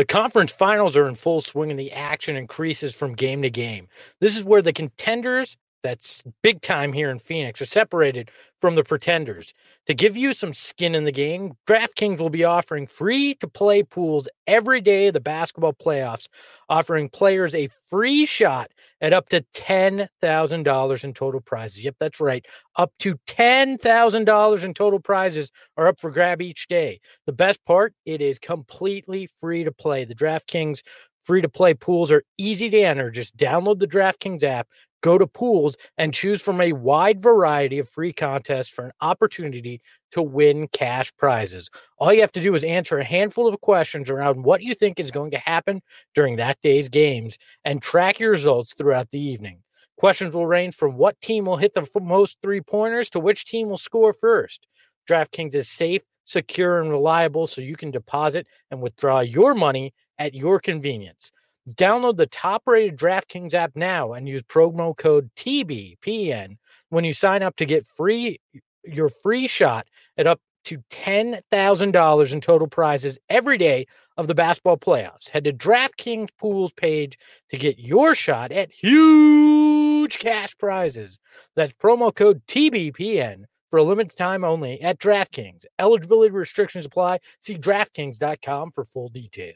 The conference finals are in full swing and the action increases from game to game. This is where the contenders, that's big time here in Phoenix, are separated from the pretenders. To give you some skin in the game, DraftKings will be offering free-to-play pools every day of the basketball playoffs, offering players a free shot at up to $10,000 in total prizes. Yep, that's right. Up to $10,000 in total prizes are up for grab each day. The best part, it is completely free to play. The DraftKings free-to-play pools are easy to enter. Just download the DraftKings app, go to pools, and choose from a wide variety of free contests for an opportunity to win cash prizes. All you have to do is answer a handful of questions around what you think is going to happen during that day's games and track your results throughout the evening. Questions will range from what team will hit the most three-pointers to which team will score first. DraftKings is safe, secure, and reliable, so you can deposit and withdraw your money at your convenience. Download the top-rated DraftKings app now and use promo code TBPN when you sign up to get your free shot at up to $10,000 in total prizes every day of the basketball playoffs. Head to DraftKings Pools page to get your shot at huge cash prizes. That's promo code TBPN for a limited time only at DraftKings. Eligibility restrictions apply. See DraftKings.com for full details.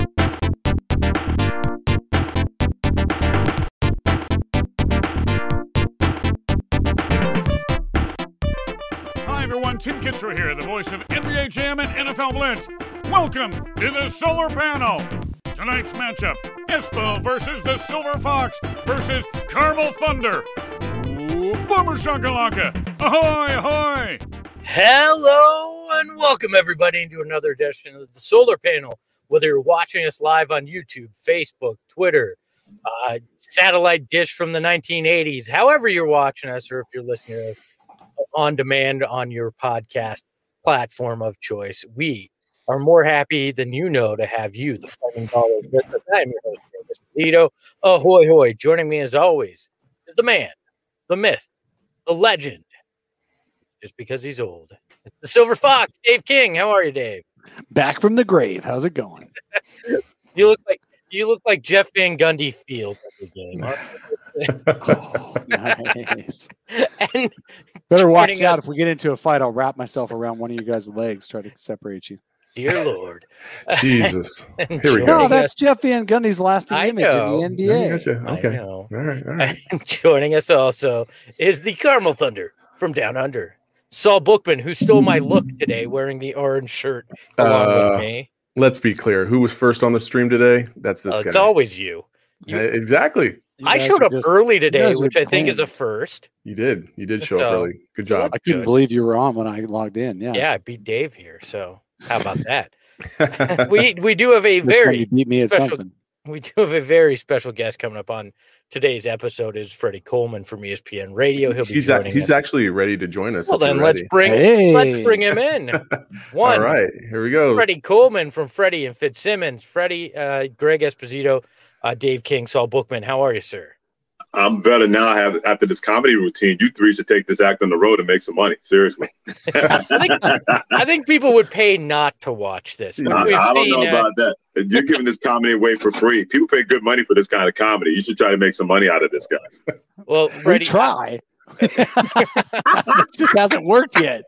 Hi everyone, Tim Kitzrow here, the voice of NBA Jam and NFL Blitz. Welcome to the Solar Panel. Tonight's matchup, Espo versus the Silver Fox versus Carmel Thunder. Ooh, Boomer Shakalaka. Ahoy, ahoy. Hello and welcome everybody into another edition of the Solar Panel. Whether you're watching us live on YouTube, Facebook, Twitter, satellite dish from the 1980s, however you're watching us, or if you're listening to us on demand on your podcast platform of choice, we are more happy than you know to have you, the Flaming Ballers, with us. I'm your host, Mr. Tito. Ahoy, hoy. Joining me as always is the man, the myth, the legend, just because he's old. It's the Silver Fox, Dave King. How are you, Dave? Back from the grave. How's it going? You look like Jeff Van Gundy Field every game. Oh, nice. And better watch out. If we get into a fight, I'll wrap myself around one of you guys' legs, try to separate you. Dear Lord. Jesus. Here we go. No, that's Jeff Van Gundy's lasting image in the NBA. Gotcha. Okay. All right. And joining us also is the Carmel Thunder from Down Under, Saul Bookman, who stole my look today wearing the orange shirt along with me. Let's be clear. Who was first on the stream today? That's this guy. It's always you. Exactly. I showed up early today, which I think is a first. You did. You did show up early. Good job. I couldn't believe you were on when I logged in. Yeah, I beat Dave here. So how about that? we do have a very beat me special. At something. We do have a very special guest coming up on today's episode. Is Freddie Coleman from ESPN Radio. He's actually ready to join us. Well, then let's bring him in. All right, here we go. Freddie Coleman from Freddie and Fitzsimmons. Freddie, Greg Esposito, Dave King, Saul Bookman. How are you, sir? I'm better now. After this comedy routine, you three should take this act on the road and make some money. Seriously. I think people would pay not to watch this. I don't know about that. You're giving this comedy away for free. People pay good money for this kind of comedy. You should try to make some money out of this, guys. Well, Freddie, try. It just hasn't worked yet.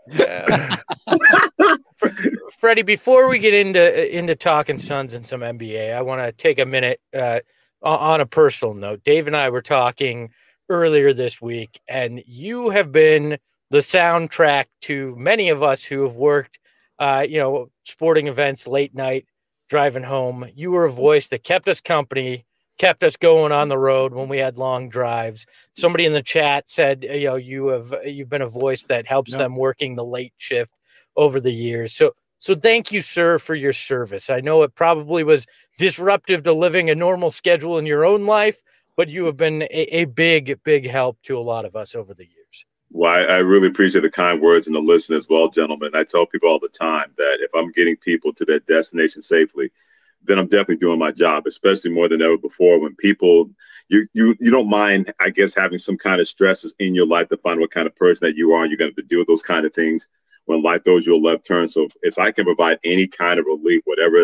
Freddie, before we get into talking Suns and some NBA, I want to take a minute on a personal note. Dave and I were talking earlier this week, and you have been the soundtrack to many of us who have worked, sporting events, late night, driving home. You were a voice that kept us company, kept us going on the road when we had long drives. Somebody in the chat said, you've been a voice that helps them working the late shift over the years. So thank you, sir, for your service. I know it probably was disruptive to living a normal schedule in your own life, but you have been a big, big help to a lot of us over the years. Well, I really appreciate the kind words and the listen as well, gentlemen. I tell people all the time that if I'm getting people to their destination safely, then I'm definitely doing my job, especially more than ever before when people, you don't mind, I guess, having some kind of stresses in your life to find what kind of person that you are. You're going to have to deal with those kind of things when life throws you a left turn. So if I can provide any kind of relief, whatever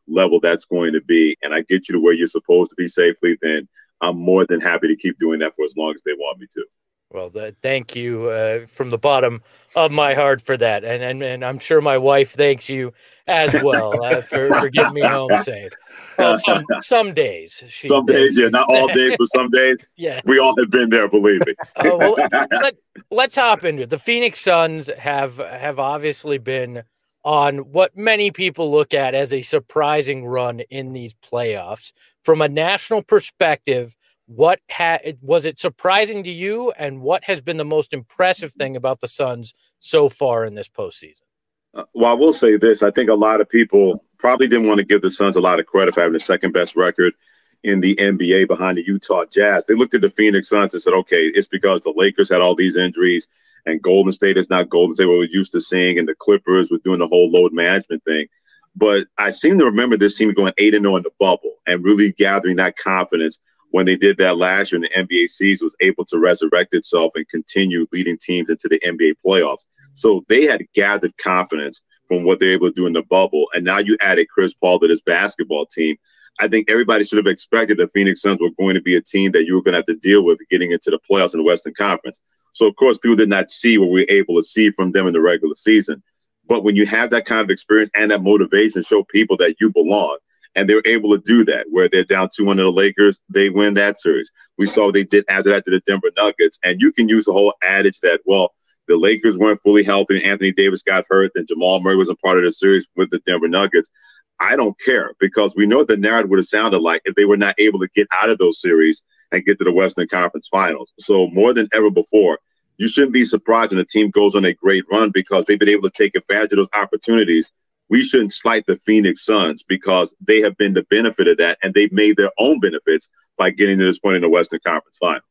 level that's going to be, and I get you to where you're supposed to be safely, then I'm more than happy to keep doing that for as long as they want me to. Well, thank you from the bottom of my heart for that, and I'm sure my wife thanks you as well for getting me home safe. Well, some days, yeah, not all days, but some days. Yeah, we all have been there, believe me. Well, let's hop into it. The Phoenix Suns have obviously been on what many people look at as a surprising run in these playoffs. From a national perspective, what was it surprising to you, and what has been the most impressive thing about the Suns so far in this postseason? Well, I will say this. I think a lot of people probably didn't want to give the Suns a lot of credit for having the second best record in the NBA behind the Utah Jazz. They looked at the Phoenix Suns and said, okay, it's because the Lakers had all these injuries and Golden State is not Golden State we're used to seeing, and the Clippers were doing the whole load management thing. But I seem to remember this team going 8-0 in the bubble and really gathering that confidence when they did that last year in the NBA season, was able to resurrect itself and continue leading teams into the NBA playoffs. So they had gathered confidence from what they're able to do in the bubble. And now you added Chris Paul to this basketball team. I think everybody should have expected the Phoenix Suns were going to be a team that you were going to have to deal with getting into the playoffs in the Western Conference. So, of course, people did not see what we were able to see from them in the regular season. But when you have that kind of experience and that motivation, show people that you belong. And they were able to do that, where they're down 2-1 to the Lakers. They win that series. We saw what they did after that to the Denver Nuggets. And you can use the whole adage that, well, the Lakers weren't fully healthy and Anthony Davis got hurt and Jamal Murray was a part of the series with the Denver Nuggets. I don't care, because we know what the narrative would have sounded like if they were not able to get out of those series and get to the Western Conference Finals. So more than ever before, you shouldn't be surprised when a team goes on a great run, because they've been able to take advantage of those opportunities. We shouldn't slight the Phoenix Suns, because they have been the benefit of that, and they've made their own benefits by getting to this point in the Western Conference Finals.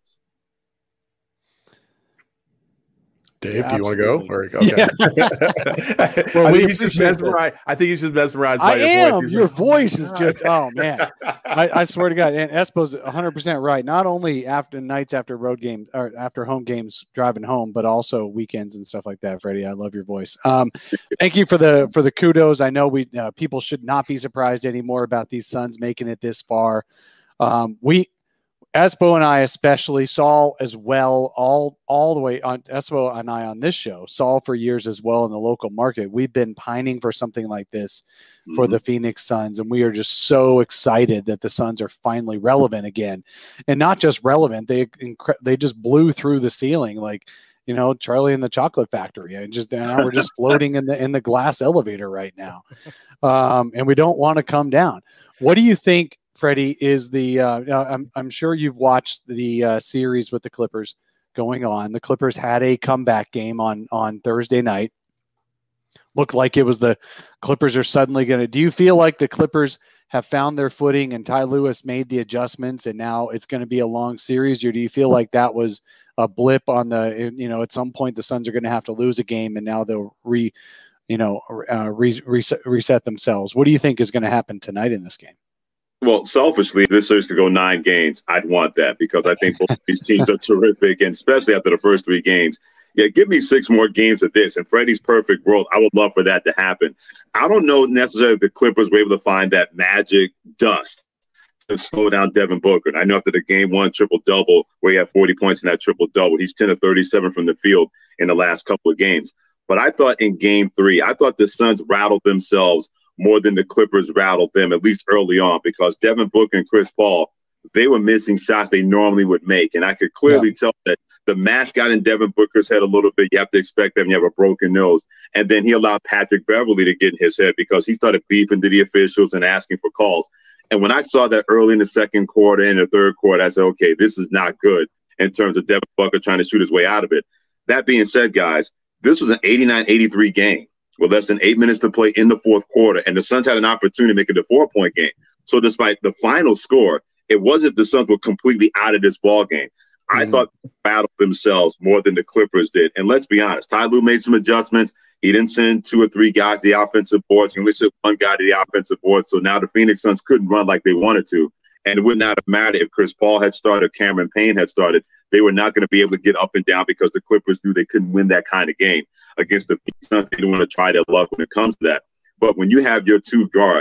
Dave, do you want to go? Or, okay. Yeah. I think he's just mesmerized by your voice. Your voice is just, oh, man. I swear to God. And Espo's 100% right. Not only after nights after road games or after home games driving home, but also weekends and stuff like that, Freddie. I love your voice. Thank you for the kudos. I know people should not be surprised anymore about these Suns making it this far. Espo and I especially, Saul as well, all the way on Espo and I on this show, Saul for years as well in the local market. We've been pining for something like this for the Phoenix Suns, and we are just so excited that the Suns are finally relevant again. And not just relevant, they just blew through the ceiling like, you know, Charlie and the Chocolate Factory. And now we're just floating in the glass elevator right now. And we don't want to come down. What do you think, Freddie, is I'm sure you've watched the series with the Clippers going on. The Clippers had a comeback game on Thursday night. Looked like it was the Clippers are suddenly going to. Do you feel like the Clippers have found their footing and Ty Lewis made the adjustments and now it's going to be a long series? Or do you feel like that was a blip on at some point the Suns are going to have to lose a game and now they'll reset themselves? What do you think is going to happen tonight in this game? Well, selfishly, if this series could go 9 games, I'd want that, because I think both of these teams are terrific, and especially after the first 3 games. Yeah, give me 6 more games of this. In Freddie's perfect world, I would love for that to happen. I don't know necessarily if the Clippers were able to find that magic dust to slow down Devin Booker. And I know after the game 1 triple-double, where he had 40 points in that triple-double, he's 10 of 37 from the field in the last couple of games. But I thought in game 3, I thought the Suns rattled themselves more than the Clippers rattled them, at least early on, because Devin Booker and Chris Paul, they were missing shots they normally would make. And I could clearly tell that the mask got in Devin Booker's head a little bit. You have to expect that when you have a broken nose. And then he allowed Patrick Beverley to get in his head, because he started beefing to the officials and asking for calls. And when I saw that early in the second quarter and the third quarter, I said, okay, this is not good in terms of Devin Booker trying to shoot his way out of it. That being said, guys, this was an 89-83 game with less than 8 minutes to play in the fourth quarter, and the Suns had an opportunity to make it a 4-point game. So despite the final score, it wasn't the Suns were completely out of this ball game. I thought they battled themselves more than the Clippers did. And let's be honest, Ty Lue made some adjustments. He didn't send 2 or 3 guys to the offensive boards. He only sent 1 guy to the offensive board. So now the Phoenix Suns couldn't run like they wanted to. And it would not have mattered if Chris Paul had started, Cameron Payne had started. They were not going to be able to get up and down, because the Clippers knew they couldn't win that kind of game against the Phoenix Suns. They didn't want to try their luck when it comes to that. But when you have your 2 guards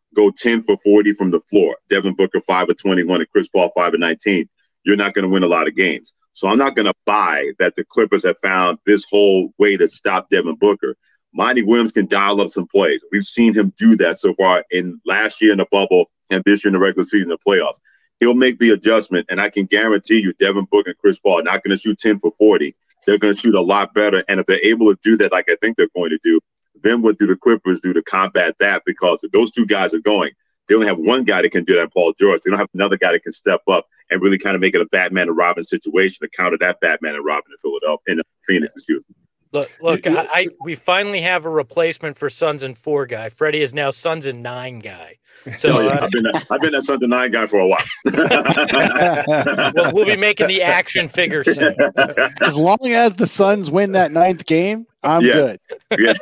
go 10 for 40 from the floor, Devin Booker 5 of 21 and Chris Paul 5 of 19, you're not going to win a lot of games. So I'm not going to buy that the Clippers have found this whole way to stop Devin Booker. Monty Williams can dial up some plays. We've seen him do that so far in last year in the bubble and this year in the regular season, the playoffs. He'll make the adjustment, and I can guarantee you Devin Booker and Chris Paul are not going to shoot 10 for 40. They're going to shoot a lot better, and if they're able to do that like I think they're going to do, then what do the Clippers do to combat that? Because if those two guys are going, they only have one guy that can do that, Paul George. They don't have another guy that can step up and really kind of make it a Batman and Robin situation to counter that Batman and Robin in Philadelphia, in Phoenix, excuse me. Look, we finally have a replacement for Suns and 4 guy. Freddie is now Suns and 9 guy. So I've been that Suns and 9 guy for a while. We'll be making the action figure soon. As long as the Suns win that 9th game, I'm good. Yeah.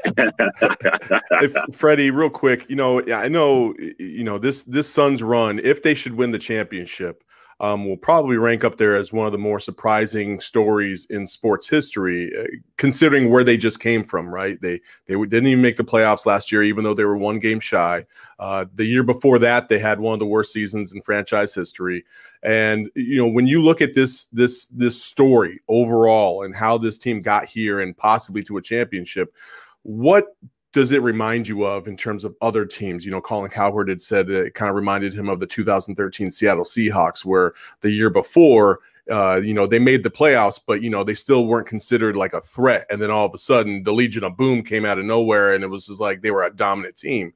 Freddie, real quick, I know, this Suns run, if they should win the championship, will probably rank up there as one of the more surprising stories in sports history, considering where they just came from, right? They didn't even make the playoffs last year, even though they were 1 game shy. The year before that, they had one of the worst seasons in franchise history. And, when you look at this story overall and how this team got here and possibly to a championship, what does it remind you of in terms of other teams? Colin Cowherd had said it kind of reminded him of the 2013 Seattle Seahawks, where the year before, they made the playoffs, but, they still weren't considered like a threat. And then all of a sudden the Legion of Boom came out of nowhere, and it was just like they were a dominant team.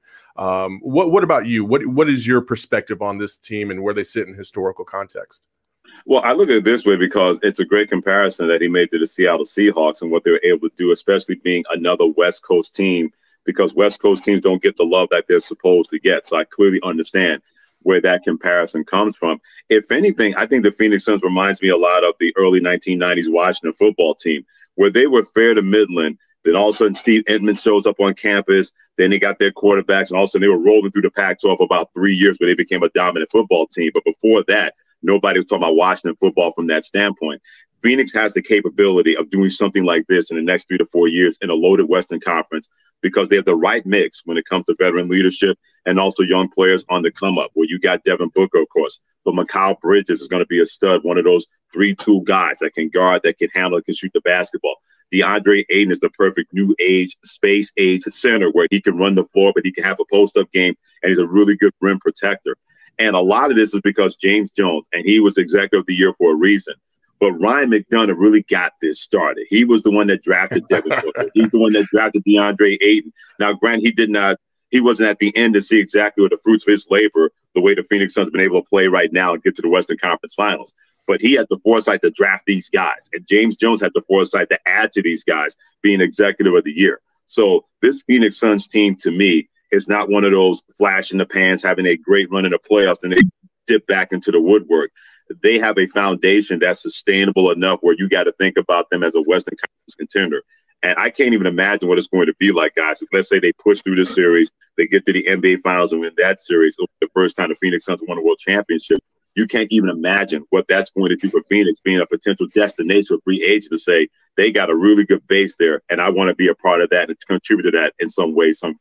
What about you? What is your perspective on this team and where they sit in historical context? Well, I look at it this way because it's a great comparison that he made to the Seattle Seahawks and what they were able to do, especially being another West Coast team, because West Coast teams don't get the love that they're supposed to get. So I clearly understand where that comparison comes from. If anything, I think the Phoenix Suns reminds me a lot of the early 1990s Washington football team, where they were fair to Midland. Then all of a sudden Steve Entman shows up on campus. Then they got their quarterbacks, and all of a sudden they were rolling through the Pac-12 for about 3 years, where they became a dominant football team. But before that, nobody was talking about Washington football from that standpoint. Phoenix has the capability of doing something like this in the next 3 to 4 years in a loaded Western Conference, because they have the right mix when it comes to veteran leadership and also young players on the come up, where you got Devin Booker, of course, but Mikal Bridges is going to be a stud, one of those 3-2 guys that can guard, that can handle, can shoot the basketball. DeAndre Ayton is the perfect new age, space age center, where he can run the floor, but he can have a post-up game, and he's a really good rim protector. And a lot of this is because James Jones, and he was Executive of the Year for a reason. But Ryan McDonough really got this started. He was the one that drafted Devin Booker. He's the one that drafted DeAndre Ayton. Now, granted, he wasn't at the end to see exactly what the fruits of his labor, the way the Phoenix Suns have been able to play right now and get to the Western Conference Finals. But he had the foresight to draft these guys. And James Jones had the foresight to add to these guys, being Executive of the Year. So this Phoenix Suns team, to me, is not one of those flash in the pans, having a great run in the playoffs and they dip back into the woodwork. They have a foundation that's sustainable enough where you got to think about them as a Western Conference contender. And I can't even imagine what it's going to be like, guys. If, let's say, they push through this series, they get to the NBA Finals and win that series. It'll be the first time the Phoenix Suns won a world championship. You can't even imagine what that's going to do for Phoenix, being a potential destination for free agents to say they got a really good base there, and I want to be a part of that and contribute to that in some way, some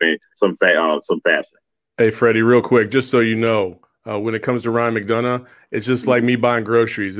fashion. Hey, Freddie, real quick, just so you know, when it comes to Ryan McDonough, it's just like me buying groceries.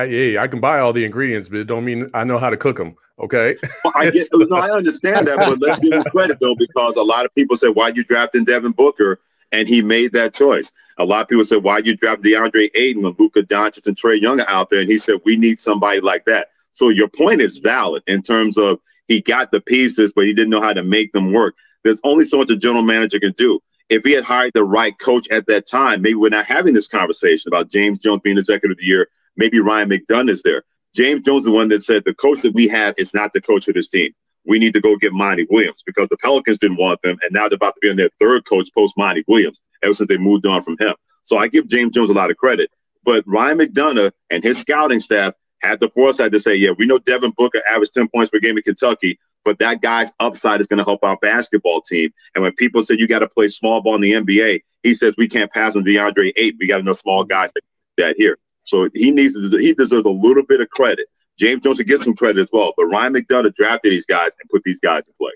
I can buy all the ingredients, but it don't mean I know how to cook them. Okay. Well, I understand that, but let's give him credit though, because a lot of people said, "Why you drafting Devin Booker?" And he made that choice. A lot of people said, "Why you draft DeAndre Ayton when Luka Doncic and Trae Young are out there?" And he said, "We need somebody like that." So your point is valid in terms of he got the pieces, but he didn't know how to make them work. There's only so much a general manager can do. If he had hired the right coach at that time, maybe we're not having this conversation about James Jones being Executive of the Year. Maybe Ryan McDonough is there. James Jones is the one that said the coach that we have is not the coach of this team. We need to go get Monty Williams, because the Pelicans didn't want them, and now they're about to be on their third coach post Monty Williams ever since they moved on from him. So I give James Jones a lot of credit. But Ryan McDonough and his scouting staff had the foresight to say, yeah, we know Devin Booker averaged 10 points per game in Kentucky, but that guy's upside is going to help our basketball team. And when people say you got to play small ball in the NBA, he says we can't pass on DeAndre Ayton. We got enough small guys that here. So he deserves a little bit of credit. James Jones should get some credit as well. But Ryan McDonough drafted these guys and put these guys in place.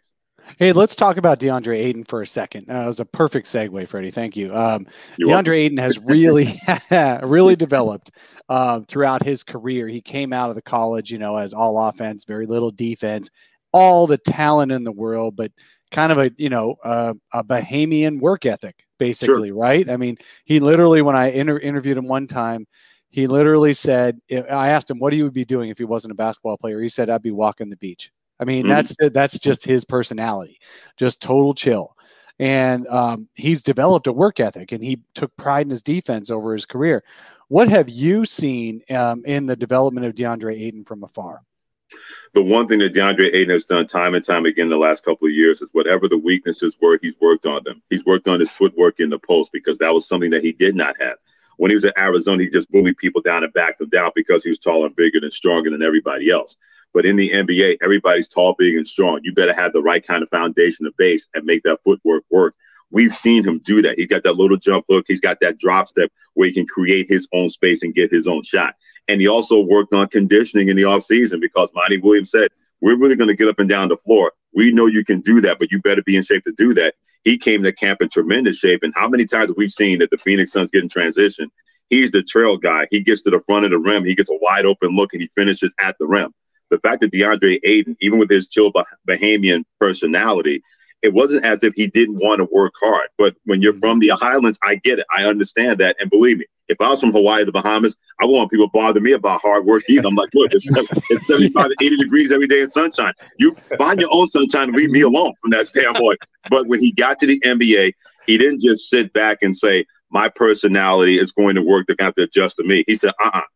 Hey, let's talk about DeAndre Ayton for a second. That was a perfect segue, Freddie. Thank you. DeAndre Ayton has really, really developed throughout his career. He came out of the college, as all offense, very little defense, all the talent in the world, but kind of a Bahamian work ethic, basically, sure. Right? I mean, he literally, when I interviewed him one time, he literally said, I asked him, what he would be doing if he wasn't a basketball player. He said, I'd be walking the beach. I mean, that's just his personality, just total chill. And he's developed a work ethic, and he took pride in his defense over his career. What have you seen in the development of DeAndre Ayton from afar? The one thing that DeAndre Ayton has done time and time again in the last couple of years is whatever the weaknesses were, he's worked on them. He's worked on his footwork in the post because that was something that he did not have. When he was at Arizona, he just bullied people down and backed them down because he was taller and bigger and stronger than everybody else. But in the NBA, everybody's tall, big, and strong. You better have the right kind of foundation of base and make that footwork work. We've seen him do that. He's got that little jump hook. He's got that drop step where he can create his own space and get his own shot. And he also worked on conditioning in the offseason because Monty Williams said, we're really going to get up and down the floor. We know you can do that, but you better be in shape to do that. He came to camp in tremendous shape. And how many times have we seen that the Phoenix Suns get in transition? He's the trail guy. He gets to the front of the rim. He gets a wide open look and he finishes at the rim. The fact that DeAndre Ayton, even with his chill Bahamian personality, it wasn't as if he didn't want to work hard. But when you're from the Highlands, I get it. I understand that. And believe me, if I was from Hawaii, the Bahamas, I wouldn't want people to bother me about hard work either. I'm like, look, it's 75 to 80 degrees every day in sunshine. You find your own sunshine and leave me alone from that standpoint. But when he got to the NBA, he didn't just sit back and say, my personality is going to work. They're going to have to adjust to me. He said,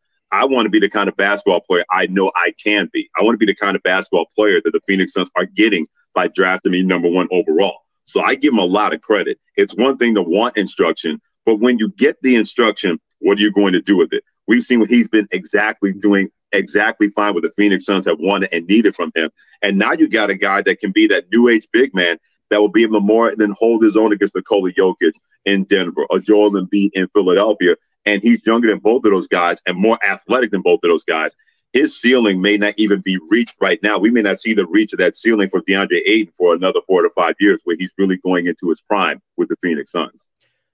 I want to be the kind of basketball player I know I can be. I want to be the kind of basketball player that the Phoenix Suns are getting by drafting me number 1 overall. So I give him a lot of credit. It's one thing to want instruction, but when you get the instruction, what are you going to do with it? We've seen what he's been doing exactly fine what the Phoenix Suns have wanted and needed from him. And now you got a guy that can be that new age big man that will be able to more than hold his own against Nikola Jokic in Denver or Joel Embiid in Philadelphia. And he's younger than both of those guys and more athletic than both of those guys. His ceiling may not even be reached right now. We may not see the reach of that ceiling for DeAndre Ayton for another 4 to 5 years where he's really going into his prime with the Phoenix Suns.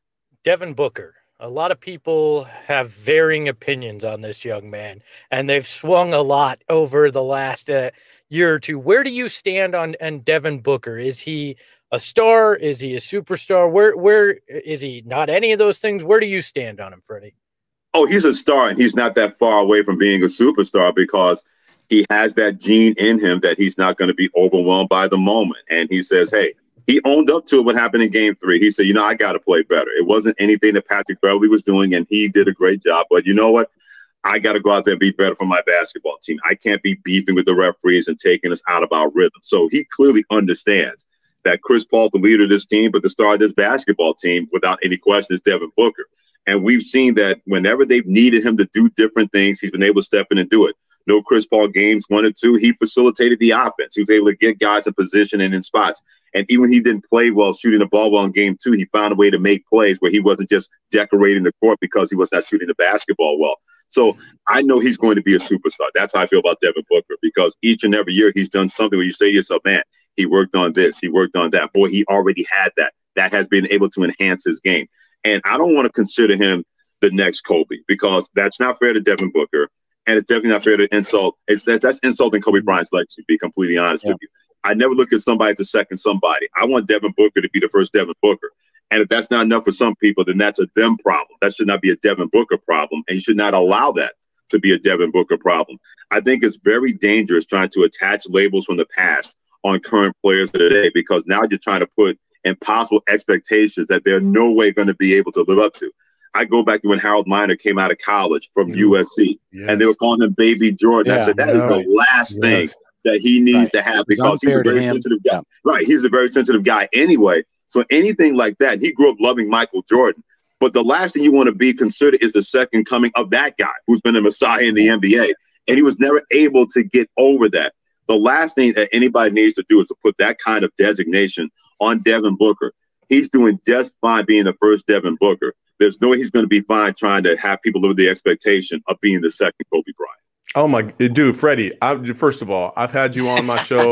Devin Booker. A lot of people have varying opinions on this young man, and they've swung a lot over the last year or two. Where do you stand on Devin Booker? Is he a star? Is he a superstar? Where is he not any of those things? Where do you stand on him, Freddie? Oh, he's a star, and he's not that far away from being a superstar because he has that gene in him that he's not going to be overwhelmed by the moment. And he says, hey, he owned up to what happened in Game 3. He said, I got to play better. It wasn't anything that Patrick Beverley was doing, and he did a great job. But you know what? I got to go out there and be better for my basketball team. I can't be beefing with the referees and taking us out of our rhythm. So he clearly understands that Chris Paul, the leader of this team, but the star of this basketball team, without any question, is Devin Booker. And we've seen that whenever they've needed him to do different things, he's been able to step in and do it. No Chris Paul games 1 and 2, he facilitated the offense. He was able to get guys in position and in spots. And even when he didn't play well shooting the ball well in Game 2, he found a way to make plays where he wasn't just decorating the court because he was not shooting the basketball well. So I know he's going to be a superstar. That's how I feel about Devin Booker, because each and every year he's done something where you say to yourself, man, he worked on this, he worked on that. Boy, he already had that. That has been able to enhance his game. And I don't want to consider him the next Kobe, because that's not fair to Devin Booker. And it's definitely not fair to insult. That's insulting Kobe Bryant's legacy, to be completely honest with you. I never look at somebody as a second somebody. I want Devin Booker to be the first Devin Booker. And if that's not enough for some people, then that's a them problem. That should not be a Devin Booker problem. And you should not allow that to be a Devin Booker problem. I think it's very dangerous trying to attach labels from the past on current players of today, because now you're trying to put impossible expectations that they're no way going to be able to live up to. I go back to when Harold Miner came out of college from USC, and they were calling him Baby Jordan. I said, that is the last thing that he needs to have, because he's a very sensitive guy. Right. He's a very sensitive guy anyway. So anything like that, he grew up loving Michael Jordan. But the last thing you want to be considered is the second coming of that guy who's been a messiah in the NBA. And he was never able to get over that. The last thing that anybody needs to do is to put that kind of designation on Devin Booker. He's doing just fine being the first Devin Booker. There's no way he's going to be fine trying to have people live with the expectation of being the second Kobe Bryant. Oh my dude, Freddie, first of all, I've had you on my show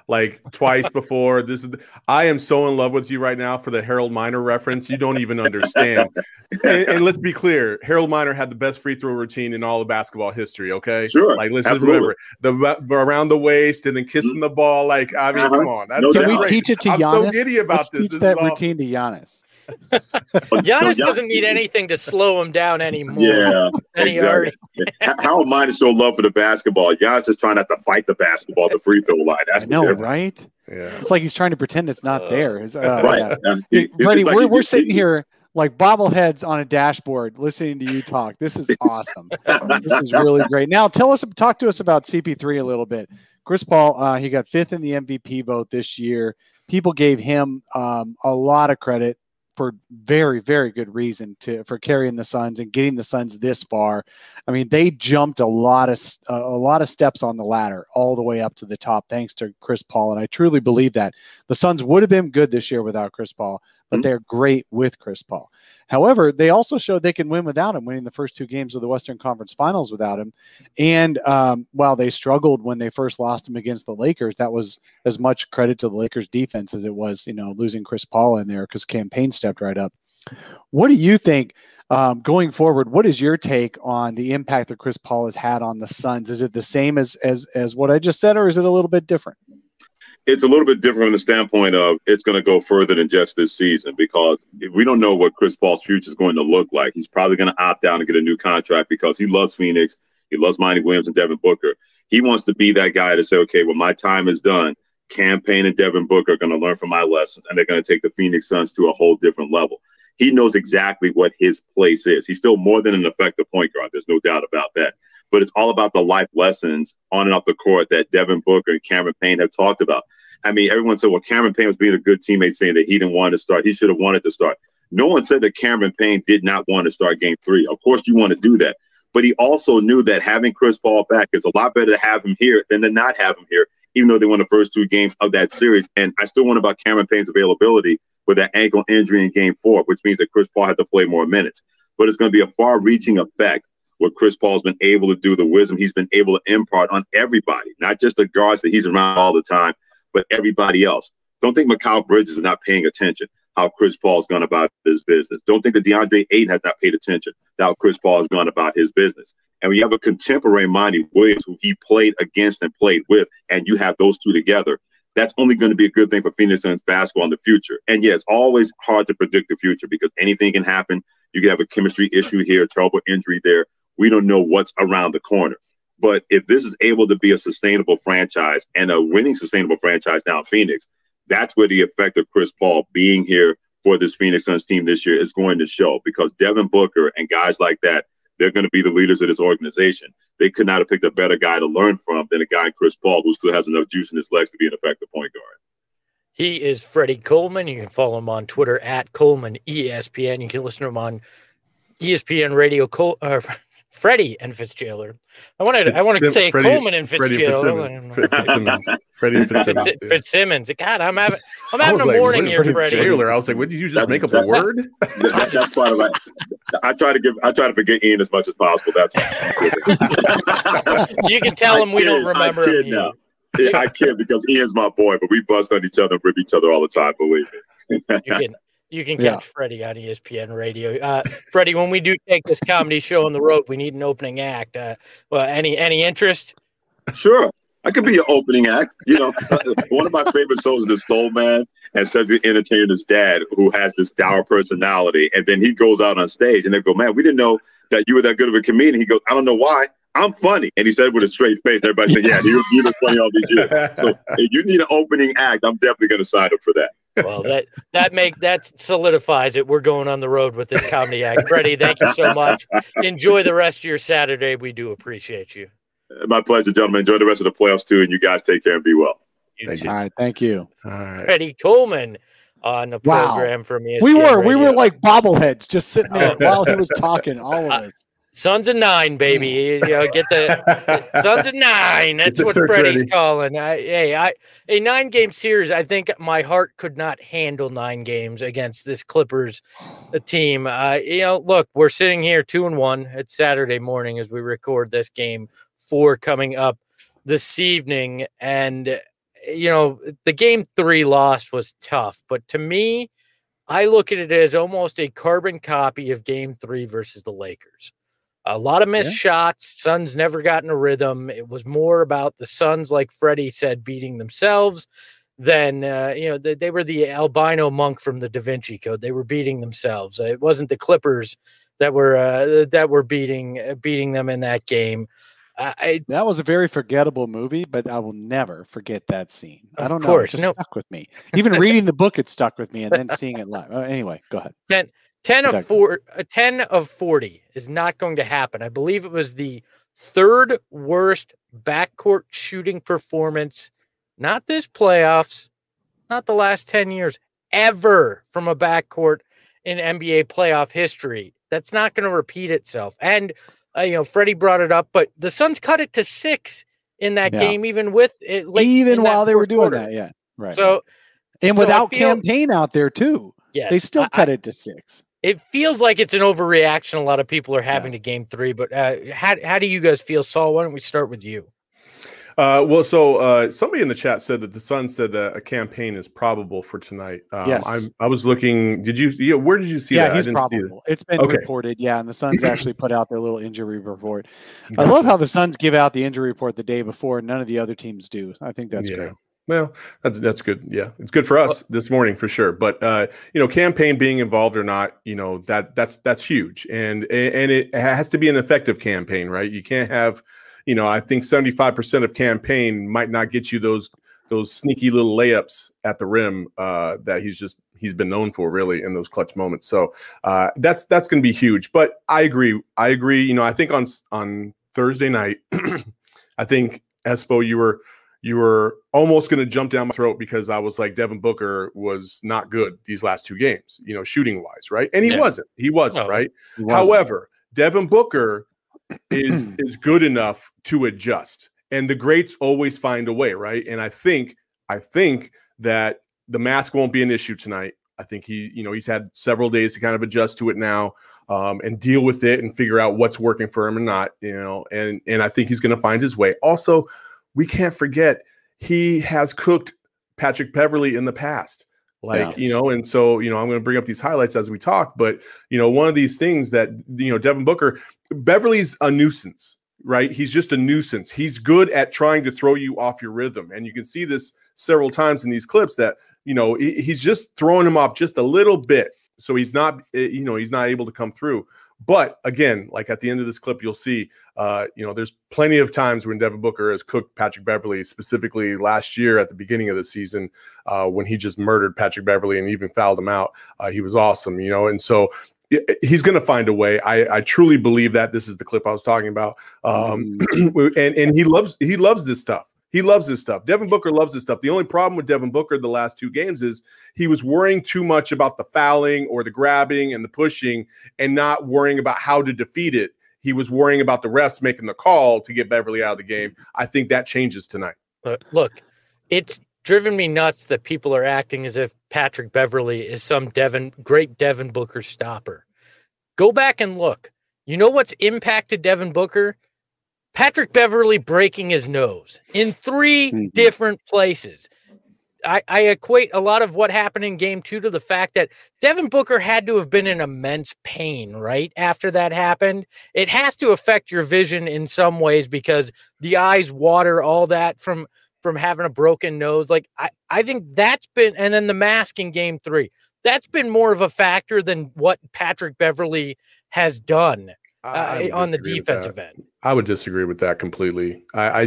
like twice before. I am so in love with you right now for the Harold Miner reference. You don't even understand. And let's be clear, Harold Miner had the best free throw routine in all of basketball history. Okay, sure. Like let's just remember the around the waist and then kissing the ball. Like I mean, come on. Can we teach it to Giannis? I'm so giddy about Let's this. Teach that routine to Giannis. Giannis doesn't need anything to slow him down anymore. Yeah, exactly. Harold Miner is so love for the basketball. Giannis is trying not to fight the basketball, the free throw line. That's right? Yeah, it's like he's trying to pretend it's not there. Right. Yeah. Freddie, we're sitting here like bobbleheads on a dashboard listening to you talk. This is awesome. This is really great. Now talk to us about CP3 a little bit. Chris Paul, he got 5th in the MVP vote this year. People gave him a lot of credit for very, very good reason for carrying the Suns and getting the Suns this far. I mean, they jumped a lot of steps on the ladder all the way up to the top thanks to Chris Paul, and I truly believe that. The Suns would have been good this year without Chris Paul, but they're great with Chris Paul. However, they also showed they can win without him, winning the first 2 games of the Western Conference Finals without him. And while they struggled when they first lost him against the Lakers, that was as much credit to the Lakers defense as it was, losing Chris Paul in there because campaign stepped right up. What do you think going forward? What is your take on the impact that Chris Paul has had on the Suns? Is it the same as what I just said, or is it a little bit different? It's a little bit different from the standpoint of it's going to go further than just this season because we don't know what Chris Paul's future is going to look like. He's probably going to opt out and get a new contract because he loves Phoenix. He loves Monty Williams and Devin Booker. He wants to be that guy to say, okay, when my time is done, Campaign and Devin Booker are going to learn from my lessons, and they're going to take the Phoenix Suns to a whole different level. He knows exactly what his place is. He's still more than an effective point guard. There's no doubt about that. But it's all about the life lessons on and off the court that Devin Booker and Cameron Payne have talked about. I mean, everyone said, well, Cameron Payne was being a good teammate, saying that he didn't want to start. He should have wanted to start. No one said that Cameron Payne did not want to start game 3. Of course, you want to do that. But he also knew that having Chris Paul back is a lot better to have him here than to not have him here, even though they won the first 2 games of that series. And I still wonder about Cameron Payne's availability with that ankle injury in game 4, which means that Chris Paul had to play more minutes. But it's going to be a far-reaching effect what Chris Paul's been able to do, the wisdom he's been able to impart on everybody, not just the guards that he's around all the time, but everybody else. Don't think Mikal Bridges is not paying attention how Chris Paul's gone about his business. Don't think that DeAndre Ayton has not paid attention to how Chris Paul has gone about his business. And when you have a contemporary Monty Williams who he played against and played with, and you have those two together, that's only going to be a good thing for Phoenix Suns basketball in the future. And yeah, it's always hard to predict the future because anything can happen. You can have a chemistry issue here, a terrible injury there. We don't know what's around the corner. But if this is able to be a sustainable franchise and a winning sustainable franchise now in Phoenix, that's where the effect of Chris Paul being here for this Phoenix Suns team this year is going to show, because Devin Booker and guys like that, they're going to be the leaders of this organization. They could not have picked a better guy to learn from than a guy, Chris Paul, who still has enough juice in his legs to be an effective point guard. He is Freddie Coleman. You can follow him on Twitter at Coleman ESPN. You can listen to him on ESPN Radio. Freddie and Fitzgerald. I wanted to say Freddie, Coleman and Fitzgerald. Freddie Fitzsimmons. Fitzsimmons. God, I'm having a morning here, Freddie. Jailer. I was like, what did you just make up a word? That's part of it. I try to forget Ian as much as possible. That's you can tell him we don't remember him. Now. Yeah, I kid because Ian's my boy, but we bust on each other and rip each other all the time. Believe me. You can catch Freddie on ESPN Radio. Freddie, when we do take this comedy show on the road, we need an opening act. Any interest? Sure. I could be your opening act. You know, one of my favorite shows is The Soul Man, and Cedric Entertainer's dad, who has this dour personality. And then he goes out on stage and they go, man, we didn't know that you were that good of a comedian. He goes, I don't know why. I'm funny. And he said with a straight face. Everybody said, yeah, you've been funny all these years. So if you need an opening act, I'm definitely going to sign up for that. Well, that solidifies it. We're going on the road with this comedy act. Freddie, thank you so much. Enjoy the rest of your Saturday. We do appreciate you. My pleasure, gentlemen. Enjoy the rest of the playoffs, too, and you guys take care and be well. All right, thank you. All right. Freddie Coleman on the program from ESPN We were like bobbleheads just sitting there while he was talking, all of us. Sons of 9, baby. You know, get the Sons of 9. That's what Freddie's calling. A 9-game series. I think my heart could not handle 9 games against this Clippers team. Look, we're sitting here 2-1. It's Saturday morning as we record this game 4 coming up this evening, and the game 3 loss was tough, but to me, I look at it as almost a carbon copy of game 3 versus the Lakers. A lot of missed shots. Suns never got in a rhythm. It was more about the Suns, like Freddie said, beating themselves than, they were the albino monk from the Da Vinci Code. They were beating themselves. It wasn't the Clippers that were beating them in that game. That was a very forgettable movie, but I will never forget that scene. I don't know. It just stuck with me. Even reading the book, it stuck with me, and then seeing it live. Anyway, go ahead. 10 of 40 is not going to happen. I believe it was the 3rd worst backcourt shooting performance, not this playoffs, not the last 10 years, ever from a backcourt in NBA playoff history. That's not going to repeat itself. And Freddie brought it up, but the Suns cut it to 6 in that game, even with it, even while they were doing that. Yeah, right. So, and without campaign out there too, they still cut it to 6. It feels like it's an overreaction. A lot of people are having to game 3, but how do you guys feel, Saul? Why don't we start with you? Somebody in the chat said that the Suns said that a campaign is probable for tonight. Yes. I was looking. Where did you see that? Yeah, he's probable. It's been reported. Yeah, and the Suns actually put out their little injury report. I love how the Suns give out the injury report the day before, and none of the other teams do. I think that's great. Well, that's good. Yeah, it's good for us this morning for sure. But campaign being involved or not, that's huge, and it has to be an effective campaign, right? You can't have. I think 75% of campaign might not get you those sneaky little layups at the rim that he's been known for really in those clutch moments. So that's going to be huge. But I agree. I think on Thursday night, I think Espo, you were almost going to jump down my throat because I was like Devin Booker was not good these last 2 games, shooting wise, right? And he wasn't. He wasn't, right? He wasn't. However, Devin Booker is good enough to adjust, and the greats always find a way, right? And I think that the mask won't be an issue tonight. I think he's had several days to kind of adjust to it now, and deal with it and figure out what's working for him and not, and I think he's going to find his way. Also, we can't forget he has cooked Patrick Beverley in the past. And so, I'm going to bring up these highlights as we talk, but, one of these things that, Devin Booker, Beverly's a nuisance, right? He's just a nuisance. He's good at trying to throw you off your rhythm. And you can see this several times in these clips that, he's just throwing him off just a little bit. So he's not able to come through. But again, like at the end of this clip, you'll see, there's plenty of times when Devin Booker has cooked Patrick Beverley, specifically last year at the beginning of the season when he just murdered Patrick Beverley and even fouled him out. He was awesome, and so he's going to find a way. I truly believe that. This is the clip I was talking about. And he loves this stuff. He loves this stuff. Devin Booker loves this stuff. The only problem with Devin Booker the last 2 games is he was worrying too much about the fouling or the grabbing and the pushing and not worrying about how to defeat it. He was worrying about the refs making the call to get Beverly out of the game. I think that changes tonight. Look, it's driven me nuts that people are acting as if Patrick Beverly is some great Devin Booker stopper. Go back and look. You know what's impacted Devin Booker? Patrick Beverly breaking his nose in 3 different places. I equate a lot of what happened in game 2 to the fact that Devin Booker had to have been in immense pain, right? After that happened, it has to affect your vision in some ways because the eyes water, all that from having a broken nose. Like I think that's been, and then the mask in game 3, that's been more of a factor than what Patrick Beverly has done on the defensive end. I would disagree with that completely.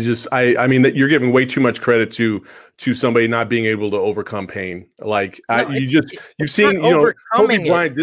I mean that you're giving way too much credit to somebody not being able to overcome pain. Like you've seen, Kobe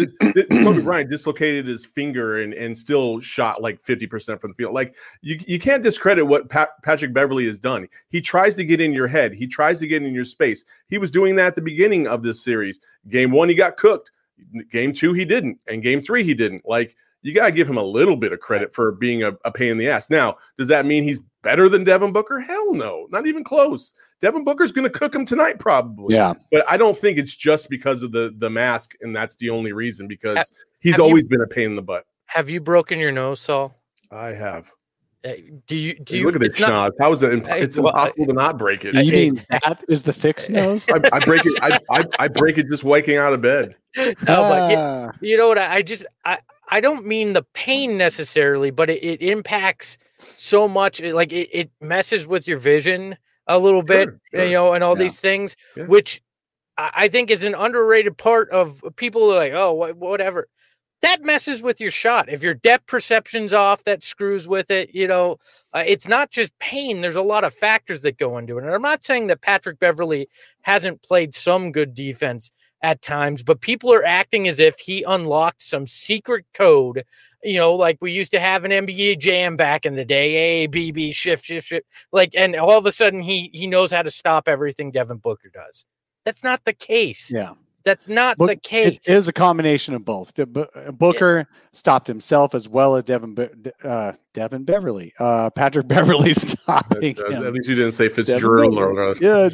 Bryant dislocated his finger and still shot like 50% from the field. Like you can't discredit what Patrick Beverly has done. He tries to get in your head. He tries to get in your space. He was doing that at the beginning of this series. Game 1, he got cooked. Game 2, he didn't. And game 3, he didn't. Like, you got to give him a little bit of credit for being a pain in the ass. Now, does that mean he's better than Devin Booker? Hell no, not even close. Devin Booker's going to cook him tonight probably. Yeah. But I don't think it's just because of the mask, and that's the only reason, because he's always been a pain in the butt. Have you broken your nose, Saul? I have. Do you look at it, schnoz? How is it? It's impossible to not break it. You mean that is the fixed nose? I break it. I break it just waking out of bed. No, but you know what? I don't mean the pain necessarily, but it impacts so much. It messes with your vision a little bit, you know, and all these things, which I think is an underrated part of people are like, oh, whatever. That messes with your shot. If your depth perception's off, that screws with it. You know, it's not just pain. There's a lot of factors that go into it. And I'm not saying that Patrick Beverley hasn't played some good defense at times, but people are acting as if he unlocked some secret code, you know, like we used to have an NBA Jam back in the day, A, B, B, shift. Like, and all of a sudden he knows how to stop everything Devin Booker does. That's not the case. Yeah. That's not the case. It is a combination of both. Booker stopped himself as well as Devin Beverley. Patrick Beverley stopping him. At least you didn't say Fitzgerald. Yeah.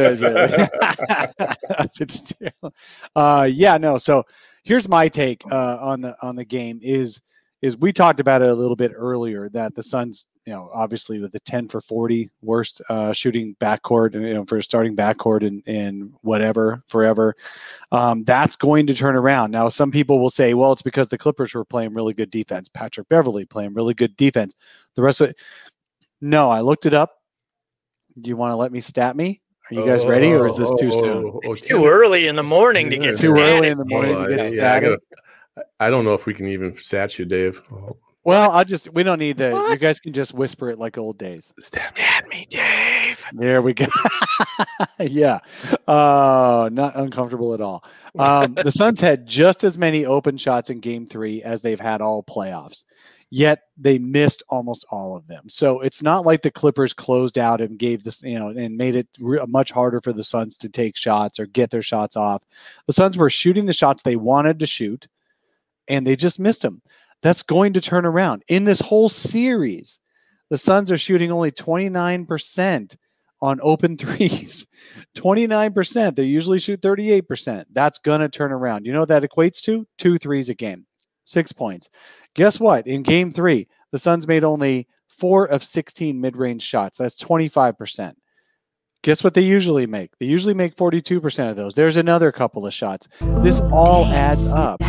Fitzgerald. No. So here's my take on the game is we talked about it a little bit earlier that the Suns, you know, obviously with the 10 for 40 worst shooting backcourt, you know, for starting backcourt and whatever forever, that's going to turn around. Now, some people will say, well, it's because the Clippers were playing really good defense. Patrick Beverley playing really good defense. The rest of it, no, I looked it up. Do you want to let me stat me? Are you guys ready, or is this too soon? It's too early in the morning to get too early in the morning to get static. I don't know if we can even stat you, Dave. Well, we don't need that. You guys can just whisper it like old days. Stab me, Dave. There we go. Yeah. Not uncomfortable at all. The Suns had just as many open shots in game 3 as they've had all playoffs, yet they missed almost all of them. So it's not like the Clippers closed out and gave this, you know, and made it much harder for the Suns to take shots or get their shots off. The Suns were shooting the shots they wanted to shoot, and they just missed them. That's going to turn around. In this whole series, the Suns are shooting only 29% on open threes. 29%. They usually shoot 38%. That's going to turn around. You know what that equates to? 2 threes a game. 6 points. Guess what? In game 3, the Suns made only 4 of 16 mid-range shots. That's 25%. Guess what they usually make? They usually make 42% of those. There's another couple of shots. This all adds up.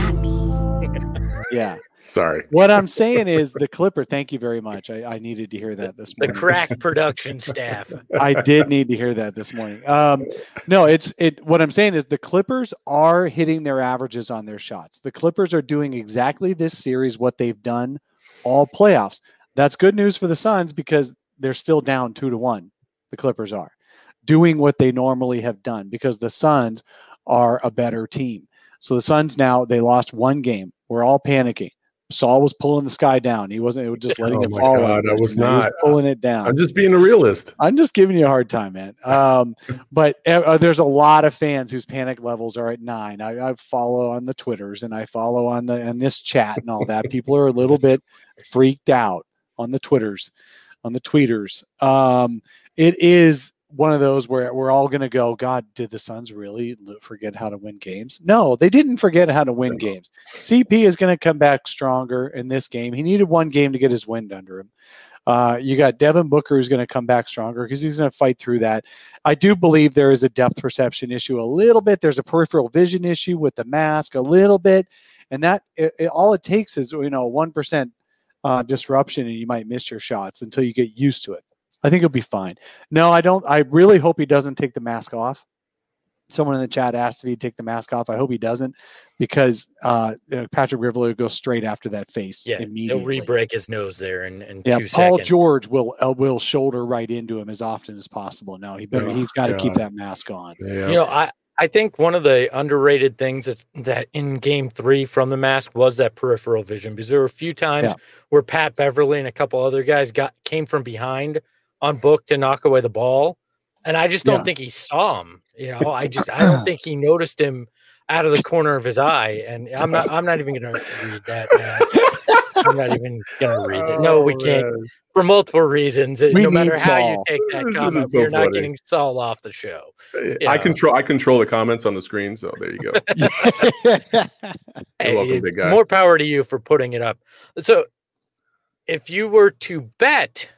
Yeah. Sorry. What I'm saying is the Clipper. Thank you very much. I needed to hear that this morning. The crack production staff. I did need to hear that this morning. No, what I'm saying is the Clippers are hitting their averages on their shots. The Clippers are doing exactly this series what they've done all playoffs. That's good news for the Suns because they're still down 2-1. The Clippers are doing what they normally have done because the Suns are a better team. So the Suns now, they lost 1 game. We're all panicking. Saul was pulling the sky down. He wasn't. It was just letting it fall. God, I was not. He was pulling it down. I'm just being a realist. I'm just giving you a hard time, man. But there's a lot of fans whose panic levels are at 9. I follow on the Twitters and I follow on this chat and all that. People are a little bit freaked out on the Twitters, on the tweeters. It is one of those where we're all going to go, God, did the Suns really forget how to win games? No, they didn't forget how to win games. CP is going to come back stronger in this game. He needed 1 game to get his wind under him. You got Devin Booker who's going to come back stronger because he's going to fight through that. I do believe there is a depth perception issue a little bit. There's a peripheral vision issue with the mask a little bit. And that all it takes is, 1% disruption and you might miss your shots until you get used to it. I think he'll be fine. No, I don't. I really hope he doesn't take the mask off. Someone in the chat asked if he'd take the mask off. I hope he doesn't because Patrick Beverley will go straight after that face immediately. He'll re-break his nose there in 2 seconds. Paul George will shoulder right into him as often as possible. No, he's got to keep that mask on. Yeah. I think one of the underrated things is that in game 3 from the mask was that peripheral vision because there were a few times where Pat Beverley and a couple other guys came from behind on Book to knock away the ball. And I just don't think he saw him. I don't think he noticed him out of the corner of his eye. And I'm not even going to read that. I'm not even going to read it. No, we can't for multiple reasons. No matter how you take that comment, you're not getting Saul off the show. I control the comments on the screen. So there you go. Hey, welcome, big guy. More power to you for putting it up. So if you were to bet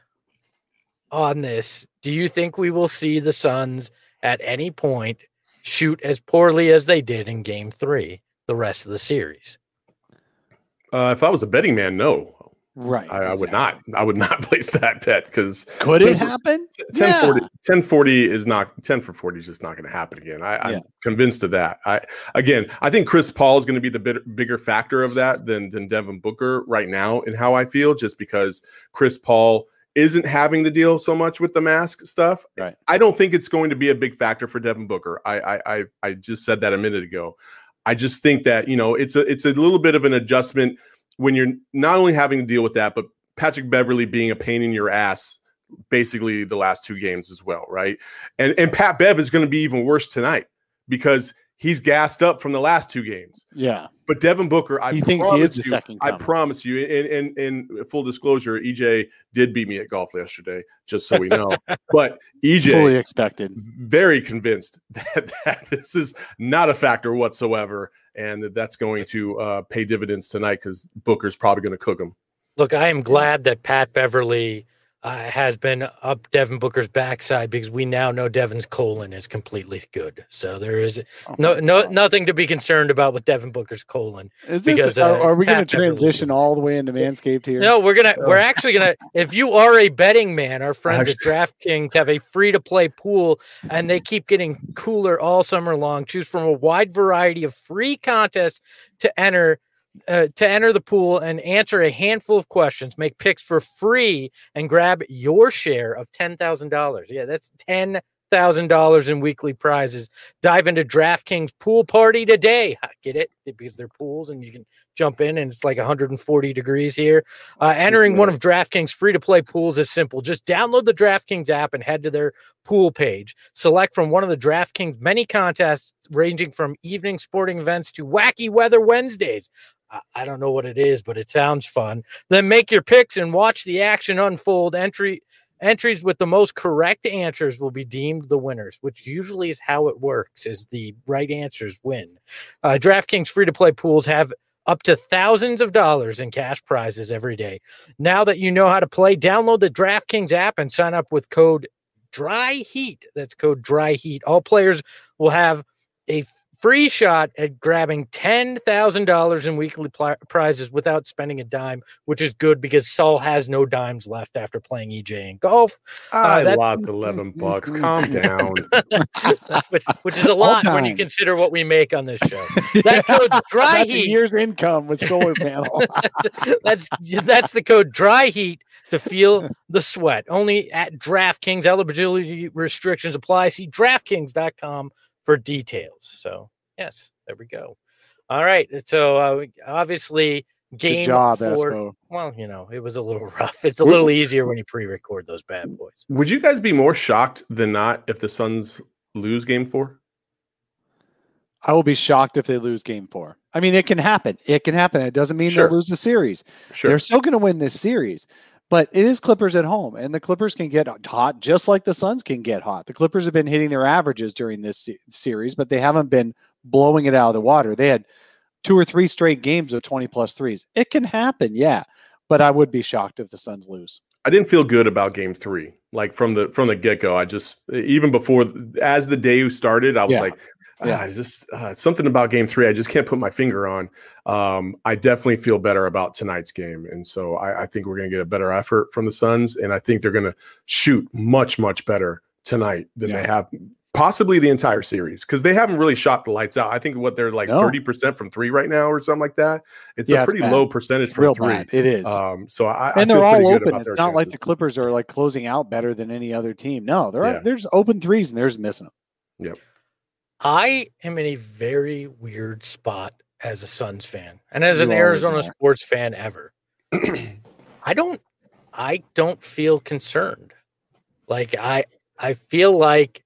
on this, do you think we will see the Suns at any point shoot as poorly as they did in Game 3 the rest of the series? If I was a betting man, no. Right. I would not. I would not place that bet because could it happen? 10-40 is not 10 for 40 is just not going to happen again. I'm convinced of that. I think Chris Paul is going to be the bigger factor of that than Devin Booker right now in how I feel, just because Chris Paul isn't having to deal so much with the mask stuff. Right. I don't think it's going to be a big factor for Devin Booker. I just said that a minute ago. I just think that, it's a little bit of an adjustment when you're not only having to deal with that, but Patrick Beverley being a pain in your ass basically the last 2 games as well, right? And Pat Bev is going to be even worse tonight because he's gassed up from the last 2 games. Yeah. But Devin Booker, he thinks he is the second coming. I promise you, in full disclosure, EJ did beat me at golf yesterday, just so we know. But EJ fully expected, very convinced that this is not a factor whatsoever, and that's going to pay dividends tonight because Booker's probably going to cook him. Look, I am glad that Pat Beverley has been up Devin Booker's backside because we now know Devin's colon is completely good. So there is nothing to be concerned about with Devin Booker's colon. Are we going to transition all the way into Manscaped here? No, we're actually going to, if you are a betting man, our friends at DraftKings have a free-to-play pool, and they keep getting cooler all summer long. Choose from a wide variety of free contests to enter the pool and answer a handful of questions, make picks for free, and grab your share of $10,000. Yeah, that's $10,000 in weekly prizes. Dive into DraftKings Pool Party today. Get it? Because they're pools and you can jump in and it's like 140 degrees here. Entering one of DraftKings free-to-play pools is simple. Just download the DraftKings app and head to their pool page. Select from one of the DraftKings many contests ranging from evening sporting events to wacky weather Wednesdays. I don't know what it is, but it sounds fun. Then make your picks and watch the action unfold. Entries with the most correct answers will be deemed the winners, which usually is how it works, is the right answers win. DraftKings free-to-play pools have up to thousands of dollars in cash prizes every day. Now that you know how to play, download the DraftKings app and sign up with code DRYHEAT. That's code DRYHEAT. All players will have a free shot at grabbing $10,000 in weekly prizes without spending a dime, which is good because Saul has no dimes left after playing EJ in golf. I lost $11. Calm down. which is a lot when you consider what we make on this show. That code DRYHEAT. That's a year's income with solar panel. that's the code DRYHEAT to feel the sweat. Only at DraftKings. Eligibility restrictions apply. See DraftKings.com for details. So yes, there we go. All right. So obviously game 4. Espo. Well, it was a little rough. It's a little easier when you pre-record those bad boys. Would you guys be more shocked than not if the Suns lose game 4? I will be shocked if they lose game 4. I mean, it can happen. It doesn't mean they'll lose the series. Sure. They're still going to win this series. But it is Clippers at home, and the Clippers can get hot just like the Suns can get hot. The Clippers have been hitting their averages during this series, but they haven't been blowing it out of the water. They had 2 or 3 straight games of 20-plus threes. It can happen, yeah, but I would be shocked if the Suns lose. I didn't feel good about game 3. Like from the get-go, I just, even before, as the day started, I was something about game 3 I just can't put my finger on. I definitely feel better about tonight's game, and so I think we're going to get a better effort from the Suns, and I think they're going to shoot much, much better tonight than they have possibly the entire series, because they haven't really shot the lights out. I think what they're like 30% from 3 right now or something like that. It's a pretty low percentage from 3. Bad. It is. So I they're all open. It's not like the Clippers are like closing out better than any other team. No, there's open threes and there's missing them. Yep. I am in a very weird spot as a Suns fan and as an Arizona sports fan ever. I don't feel concerned. Like I feel like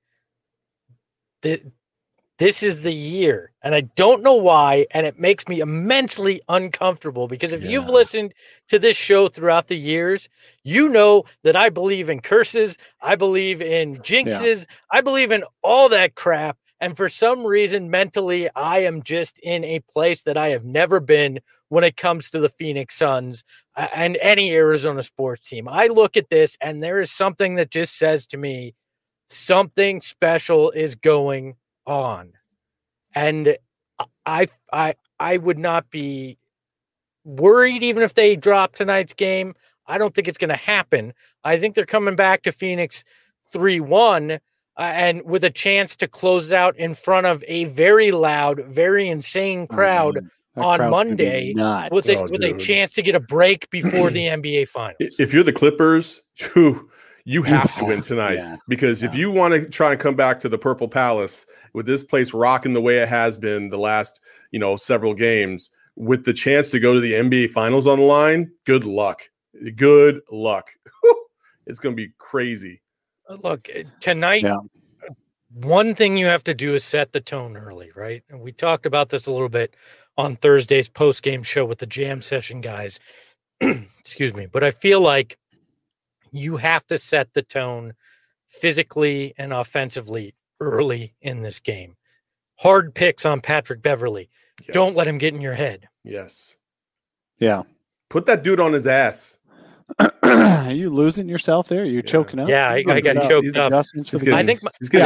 this is the year, and I don't know why, and it makes me immensely uncomfortable because if you've listened to this show throughout the years, you know that I believe in curses, I believe in jinxes, I believe in all that crap. And for some reason, mentally, I am just in a place that I have never been when it comes to the Phoenix Suns and any Arizona sports team. I look at this and there is something that just says to me, something special is going on. And I would not be worried even if they drop tonight's game. I don't think it's going to happen. I think they're coming back to Phoenix 3-1 and with a chance to close it out in front of a very loud, very insane crowd on Monday with a chance to get a break before the NBA Finals. If you're the Clippers, you have to win tonight because if you want to try and come back to the Purple Palace with this place rocking the way it has been the last, several games with the chance to go to the NBA Finals on the line, good luck. Good luck. It's going to be crazy. Look, tonight, one thing you have to do is set the tone early, right? And we talked about this a little bit on Thursday's post-game show with the Jam Session guys. Excuse me. But I feel like you have to set the tone physically and offensively early in this game. Hard picks on Patrick Beverley. Yes. Don't let him get in your head. Yes. Yeah. Put that dude on his ass. Are you losing yourself there? Are you choking up? Yeah, I got choked up. I think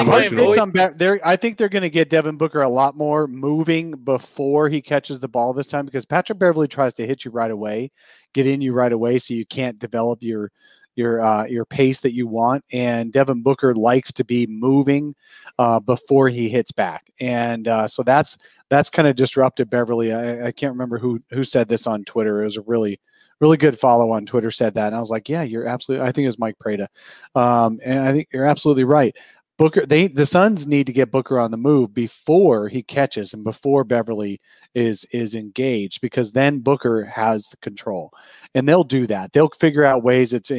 they're going to get Devin Booker a lot more moving before he catches the ball this time because Patrick Beverley tries to hit you right away, get in you right away, so you can't develop your pace that you want. And Devin Booker likes to be moving before he hits back, and so that's kind of disrupted Beverley. I can't remember who said this on Twitter. It was a really good follow on Twitter said that. And I was like, yeah, you're absolutely, I think it was Mike Prada. And I think you're absolutely right. Booker, the Suns need to get Booker on the move before he catches and before Beverley is engaged, because then Booker has the control and they'll do that. They'll figure out ways it's,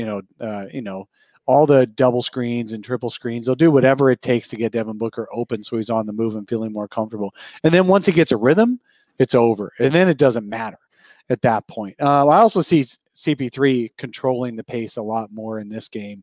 all the double screens and triple screens. They'll do whatever it takes to get Devin Booker open so he's on the move and feeling more comfortable. And then once he gets a rhythm, it's over. And then it doesn't matter at that point. I also see CP3 controlling the pace a lot more in this game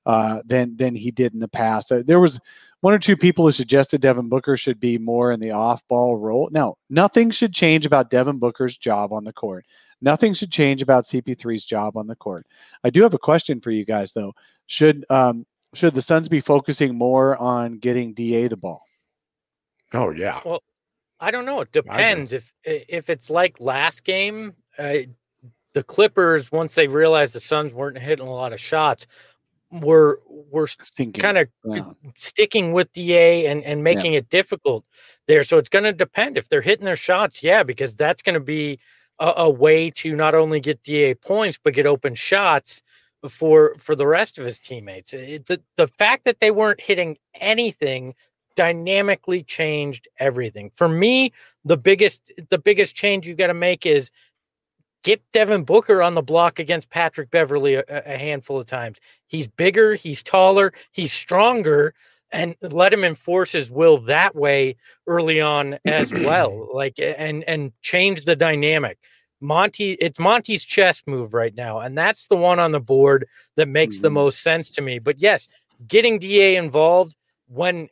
than he did in the past. There was one or two people who suggested Devin Booker should be more in the off-ball role. No, nothing should change about Devin Booker's job on the court. Nothing should change about CP3's job on the court. I do have a question for you guys, though. Should the Suns be focusing more on getting DA the ball? Oh, yeah. Well, I don't know. It depends. If it's like last game, the Clippers, once they realized the Suns weren't hitting a lot of shots, were kind of sticking with DA and making it difficult there. So it's going to depend if they're hitting their shots. Yeah, because that's going to be a way to not only get DA points, but get open shots for the rest of his teammates. The fact that they weren't hitting anything dynamically changed everything. For me, the biggest change you got to make is get Devin Booker on the block against Patrick Beverley a handful of times. He's bigger, he's taller, he's stronger, and let him enforce his will that way early on as well. And change the dynamic. It's Monty's chess move right now, and that's the one on the board that makes the most sense to me. But yes, getting DA involved when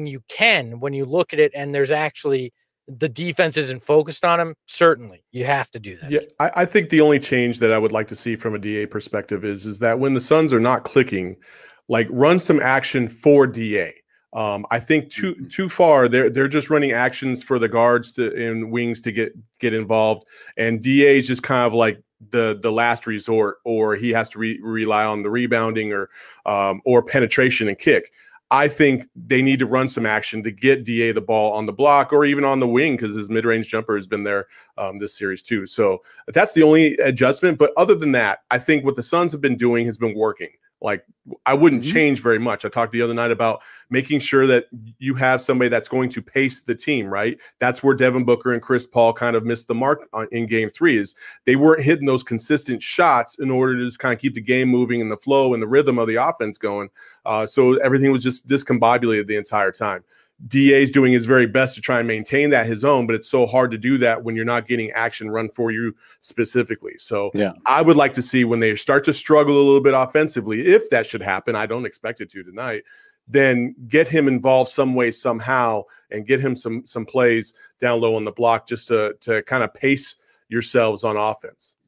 you look at it and there's actually the defense isn't focused on him, certainly you have to do that. Yeah, I think the only change that I would like to see from a DA perspective is that when the Suns are not clicking, like run some action for DA. I think too far they're just running actions for the guards and wings to get involved, and DA is just kind of like the last resort, or he has to rely on the rebounding or penetration and kick. I think they need to run some action to get DA the ball on the block or even on the wing, because his mid-range jumper has been there this series too. So that's the only adjustment. But other than that, I think what the Suns have been doing has been working. Like, I wouldn't change very much. I talked the other night about making sure that you have somebody that's going to pace the team, right? That's where Devin Booker and Chris Paul kind of missed the mark in game 3, is they weren't hitting those consistent shots in order to just kind of keep the game moving and the flow and the rhythm of the offense going. So everything was just discombobulated the entire time. DA's doing his very best to try and maintain that his own, but it's so hard to do that when you're not getting action run for you specifically. So I would like to see when they start to struggle a little bit offensively, if that should happen, I don't expect it to tonight, then get him involved some way, somehow, and get him some plays down low on the block just to kind of pace yourselves on offense.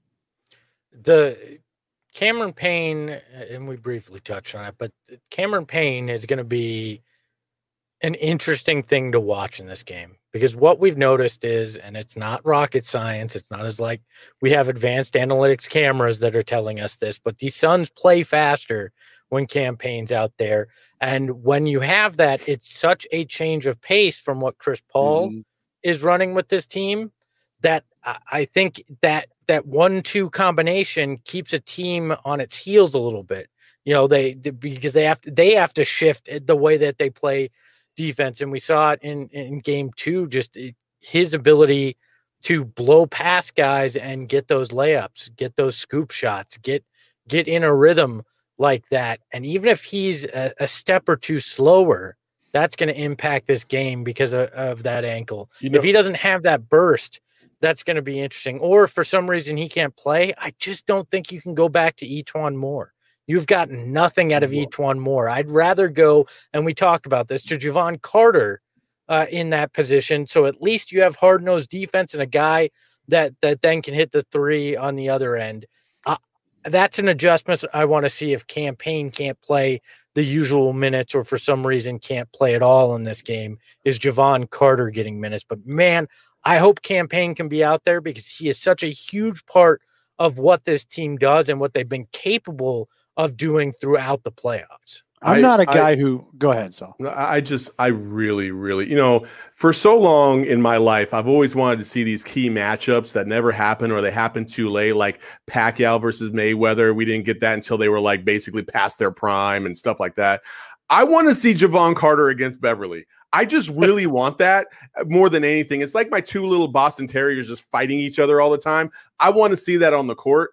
The Cameron Payne, and we briefly touched on it, but Cameron Payne is going to be an interesting thing to watch in this game, because what we've noticed is, and it's not rocket science, it's not as like we have advanced analytics cameras that are telling us this, but these Suns play faster when Cam Payne's out there. And when you have that, it's such a change of pace from what Chris Paul is running with this team, that I think that 1-2 combination keeps a team on its heels a little bit. You know, because they have to shift the way that they play defense. And we saw it in game 2, just his ability to blow past guys and get those layups, get those scoop shots, get in a rhythm like that. And even if he's a step or two slower, that's going to impact this game because of that ankle. If he doesn't have that burst, that's going to be interesting. Or if for some reason he can't play, I just don't think you can go back to E'Twaun Moore. You've got nothing out of E'Twaun Moore. I'd rather go, and we talked about this, to Jevon Carter in that position. So at least you have hard-nosed defense and a guy that then can hit the three on the other end. That's an adjustment I want to see if Cam Payne can't play the usual minutes, or for some reason can't play at all in this game, is Jevon Carter getting minutes. But man, I hope Cam Payne can be out there, because he is such a huge part of what this team does and what they've been capable of doing throughout the playoffs. I'm not a guy who go ahead. So I really, for so long in my life, I've always wanted to see these key matchups that never happen, or they happen too late, like Pacquiao versus Mayweather. We didn't get that until they were like basically past their prime and stuff like that. I want to see Jevon Carter against Beverly. I just really want that more than anything. It's like my two little Boston Terriers just fighting each other all the time. I want to see that on the court.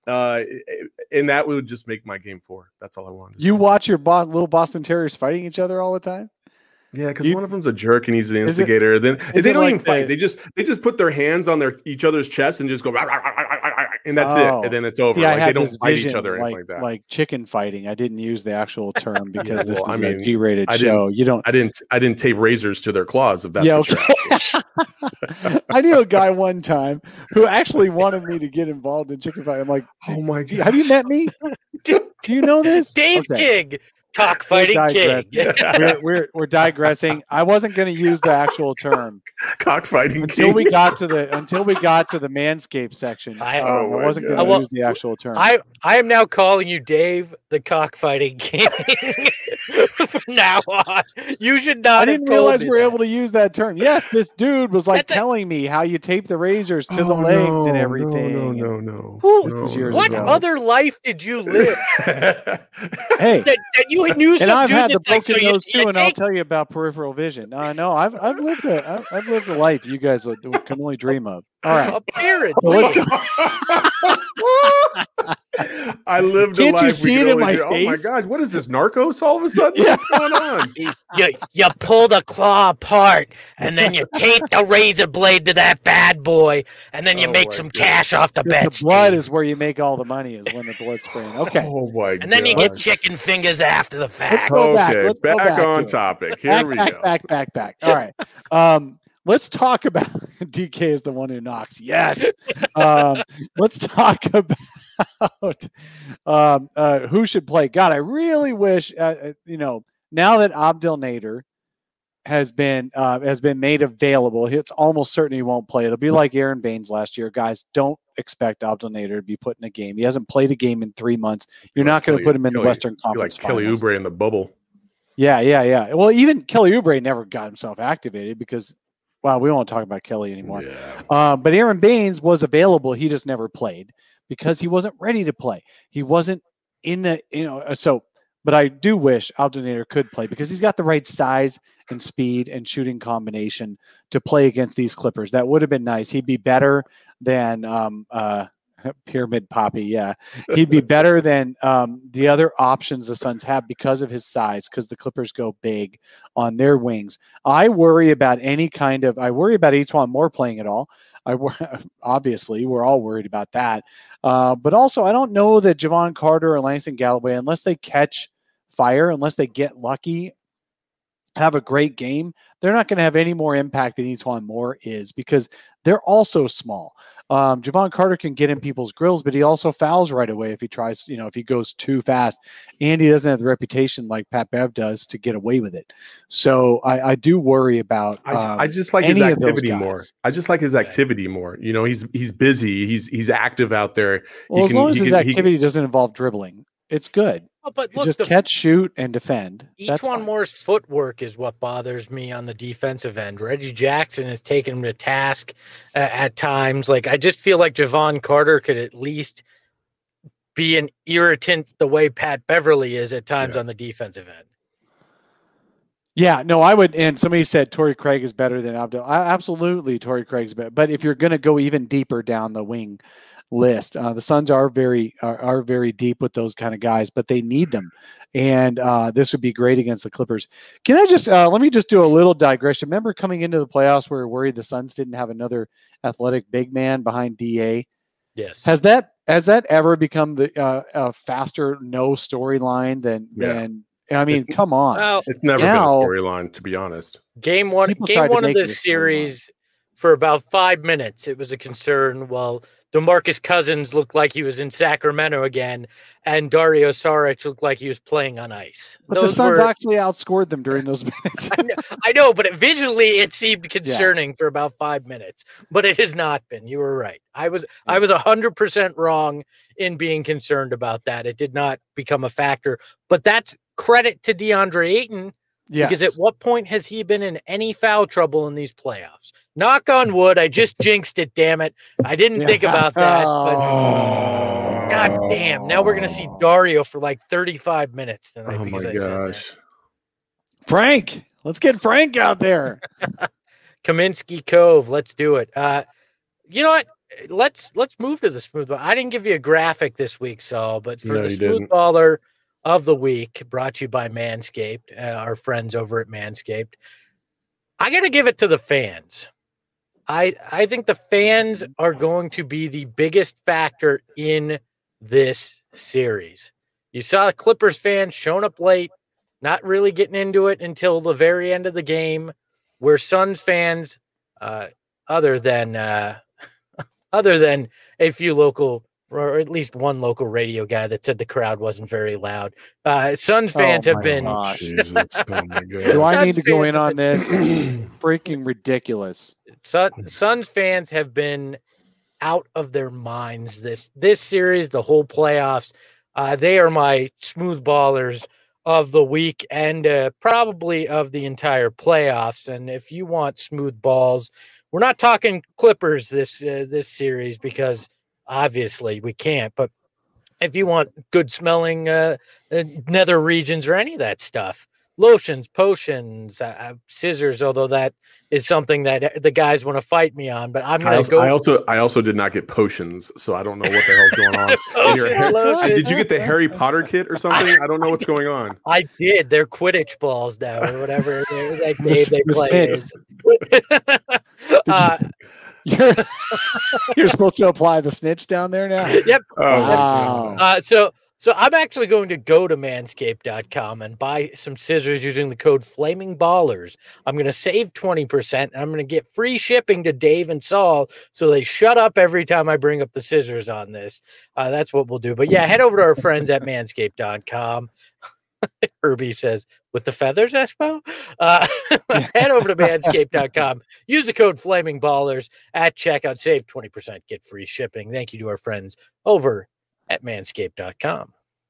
And that would just make my game 4. That's all I wanted. You watch your little Boston Terriers fighting each other all the time? Yeah, because one of them's a jerk and he's an instigator. Then they don't even fight. They just put their hands on each other's chest and just go, and that's it. And then it's over. Like, they don't fight each other or anything like that. Like chicken fighting. I didn't use the actual term because this is a G-rated show. I didn't tape razors to their claws. If that's what you're asking. I knew a guy one time who actually wanted me to get involved in chicken fighting. I'm like, oh my God, have you met me? Do you know this? Dave King. Cockfighting king. We're digressing. I wasn't going to use the actual term cockfighting until we got to the Manscaped section. I wasn't going to use the actual term. I am now calling you Dave the Cockfighting King from now on. You should not. I didn't realize we were able to use that term. Yes, this dude was like telling me how you tape the razors to the legs and everything. No. What other life did you live? Hey. That you knew some and I've dude had the that's broken nose too, and I'll tell you about peripheral vision. No, I've lived a life you guys can only dream of. All right, apparently. I lived Can't a life. You see it in my face? Oh my gosh, what is this, Narcos? All of a sudden, what's going on? You pull the claw apart, and then you tape the razor blade to that bad boy, and then you make some cash off the bet. The blood is where you make all the money. Is when the blood's spraying. Okay. Oh my god. And then you get chicken fingers after the fact. Let's go back. Let's go back on topic. Here we go. Back. All right. Let's talk about DK is the one who knocks. Yes. Let's talk about who should play. God, I really wish now that Abdel Nader has been made available, it's almost certain he won't play. It'll be like Aaron Baines last year. Guys, don't expect Abdel Nader to be put in a game. He hasn't played a game in 3 months. You're not going to put him in the Western Conference. Like Kelly Oubre in the bubble. Yeah. Well, even Kelly Oubre never got himself activated because, well, we won't talk about Kelly anymore. Yeah. But Aaron Baines was available. He just never played because he wasn't ready to play. He wasn't in the, but I do wish Abdel Nader could play because he's got the right size and speed and shooting combination to play against these Clippers. That would have been nice. He'd be better than Pyramid Poppy. Yeah. He'd be better than the other options the Suns have because of his size, because the Clippers go big on their wings. I worry about E'Twaun Moore playing at all. Obviously, we're all worried about that. But also, I don't know that Jevon Carter or Langston Galloway, unless they catch fire, unless they get lucky, have a great game, they're not going to have any more impact than Etuan Moore is, because they're also small. Javon Carter can get in people's grills, but he also fouls right away if he tries, if he goes too fast, and he doesn't have the reputation like Pat Bev does to get away with it. So I do worry about. I just like his activity more. I just like his activity more. He's busy. He's active out there. Well, as long as his activity doesn't involve dribbling, it's good. But look, just catch, shoot, and defend. Etuan Moore's footwork is what bothers me on the defensive end. Reggie Jackson has taken him to task at times. Like, I just feel like Javon Carter could at least be an irritant the way Pat Beverly is at times on the defensive end. Yeah, no, I would. And somebody said Torrey Craig is better than Abdel. Absolutely, Torrey Craig's better. But if you're going to go even deeper down the wing list, the Suns are very deep with those kind of guys, but they need them, and this would be great against the Clippers. Can I just let me just do a little digression? Remember coming into the playoffs, we were worried the Suns didn't have another athletic big man behind DA. Yes. Has that ever become the a faster no storyline than? I mean, come on. Well, it's never been a storyline, to be honest. Game one of this series, for about 5 minutes, it was a concern. Well, DeMarcus Cousins looked like he was in Sacramento again, and Dario Saric looked like he was playing on ice. But the Suns actually outscored them during those minutes. I know, but visually it seemed concerning for about 5 minutes. But it has not been. You were right. I was 100% wrong in being concerned about that. It did not become a factor. But that's credit to DeAndre Ayton. Yes. Because at what point has he been in any foul trouble in these playoffs? Knock on wood. I just jinxed it, damn it. I didn't think about that. But God damn. Now we're going to see Dario for like 35 minutes tonight. Oh, my gosh. Frank. Let's get Frank out there. Kaminsky Cove. Let's do it. You know what? Let's move to the smooth ball. I didn't give you a graphic this week, Saul, but for the smooth baller of the week, brought to you by Manscaped, our friends over at Manscaped. I got to give it to the fans. I think the fans are going to be the biggest factor in this series. You saw the Clippers fans showing up late, not really getting into it until the very end of the game, where Suns fans, other than a few local, or at least one local radio guy that said the crowd wasn't very loud. Suns fans have been. Do I need to go in on this? Freaking ridiculous. Suns fans have been out of their minds this series, the whole playoffs. They are my smooth ballers of the week and probably of the entire playoffs. And if you want smooth balls, we're not talking Clippers this series, because obviously we can't, but if you want good smelling nether regions or any of that stuff, lotions, potions, scissors, although that is something that the guys want to fight me on, but I'm going to go. I also did not get potions, so I don't know what the hell's going on. Did you get the Harry Potter kit or something? I don't know what's going on. I did. They're Quidditch balls now, or whatever they play. You're supposed to apply the snitch down there now? Yep. Oh, wow. So I'm actually going to go to manscaped.com and buy some scissors using the code FlamingBallers. I'm going to save 20%, and I'm going to get free shipping to Dave and Saul, so they shut up every time I bring up the scissors on this. That's what we'll do. But yeah, head over to our friends at manscaped.com. Herbie says, with the feathers, Espo? Head over to manscaped.com. Use the code FlamingBallers at checkout. Save 20%. Get free shipping. Thank you to our friends over at manscaped.com.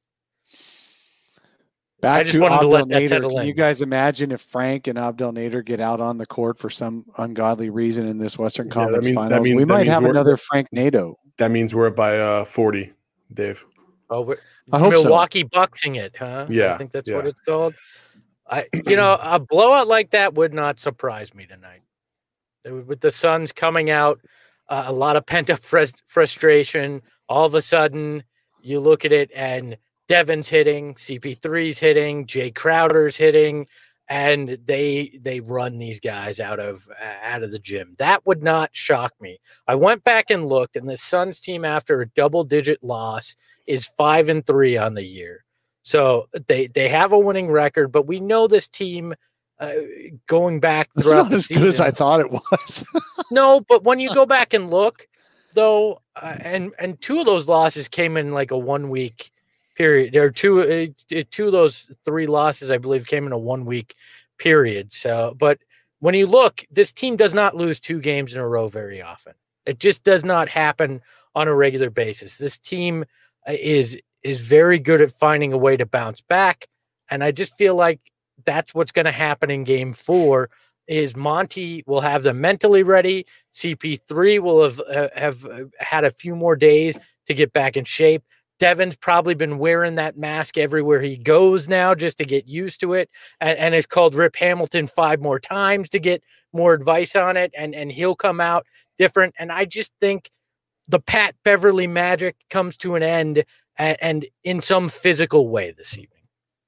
Back to Abdel Nader. Can you guys imagine if Frank and Abdel Nader get out on the court for some ungodly reason in this Western Conference Finals? We might have another Frank Nadeau. That means we're up by 40, Dave. Oh, I hope Milwaukee Bucksing it, huh? Yeah. I think that's what it's called. A blowout like that would not surprise me tonight. With the Suns coming out, a lot of pent-up frustration. All of a sudden, you look at it and Devin's hitting, CP3's hitting, Jay Crowder's hitting, and they run these guys out of the gym. That would not shock me. I went back and looked, and the Suns team, after a double-digit loss, is 5-3 on the year. So they have a winning record, but we know this team going back It's throughout not the as season. good as I thought it was. No, but when you go back and look, though, and two of those losses came in like a 1 week period. There are two of those 3 losses, I believe, came in a 1 week period. So, but when you look, this team does not lose 2 games in a row very often. It just does not happen on a regular basis. This team is very good at finding a way to bounce back, and I just feel like that's what's going to happen in Game 4. Is Monty will have them mentally ready. CP3 will have had a few more days to get back in shape. Devin's probably been wearing that mask everywhere he goes now just to get used to it. And it's called Rip Hamilton 5 more times to get more advice on it. And he'll come out different. And I just think the Pat Beverly magic comes to an end and in some physical way this evening.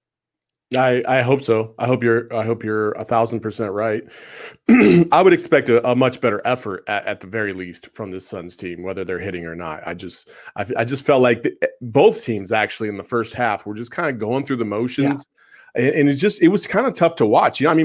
I hope so. I hope you're 1,000% right. I would expect a much better effort at the very least from this Suns team, whether they're hitting or not. I just felt like both teams actually in the first half were just kind of going through the motions. Yeah. And it was kind of tough to watch. I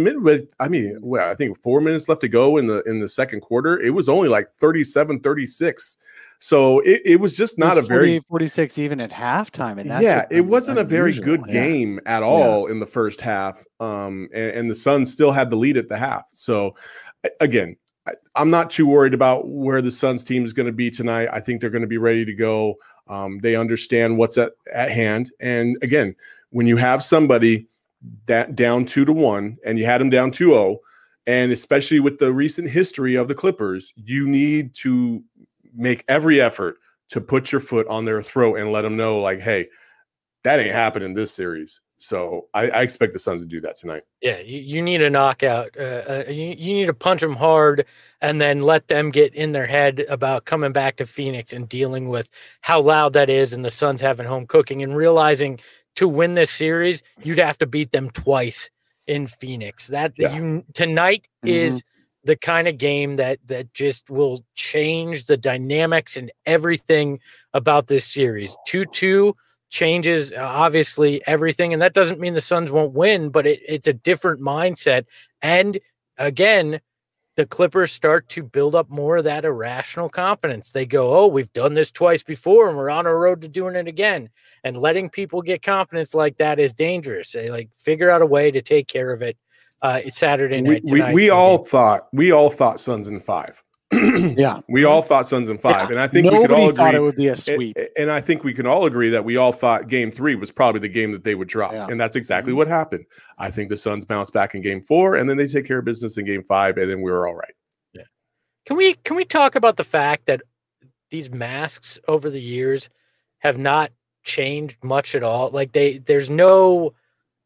think 4 minutes left to go in the second quarter. It was only like 37-36. So it was just not a very 46 even at halftime. And it wasn't a very good game at all in the first half. And the Suns still had the lead at the half. So again, I'm not too worried about where the Suns team is going to be tonight. I think they're going to be ready to go. They understand what's at hand. And again, when you have somebody that down 2-1 and you had them down 2-0, and especially with the recent history of the Clippers, you need to make every effort to put your foot on their throat and let them know, like, hey, that ain't happening this series. So I expect the Suns to do that tonight. Yeah, you need a knockout. You need to punch them hard and then let them get in their head about coming back to Phoenix and dealing with how loud that is and the Suns having home cooking and realizing to win this series, you'd have to beat them twice in Phoenix. Tonight is the kind of game that just will change the dynamics and everything about this series. 2-2 changes obviously everything, and that doesn't mean the Suns won't win, but it's a different mindset. And again, the Clippers start to build up more of that irrational confidence. They go, oh, we've done this twice before and we're on our road to doing it again. And letting people get confidence like that is dangerous. They figure out a way to take care of it. It's Saturday night. We all thought Suns in 5. Yeah, we all thought Suns in 5, yeah. And I think Nobody we could all agree thought it would be a sweep. And I think we can all agree that we all thought Game 3 was probably the game that they would drop, and that's exactly what happened. I think the Suns bounce back in Game 4, and then they take care of business in Game 5, and then we were all right. Yeah. Can we talk about the fact that these masks over the years have not changed much at all? There's no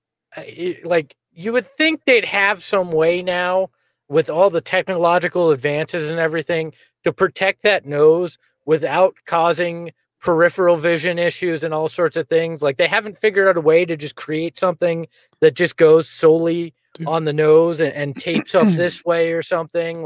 you would think they'd have some way now with all the technological advances and everything to protect that nose without causing peripheral vision issues and all sorts of things. Like they haven't figured out a way to just create something that just goes solely on the nose and tapes up this way or something.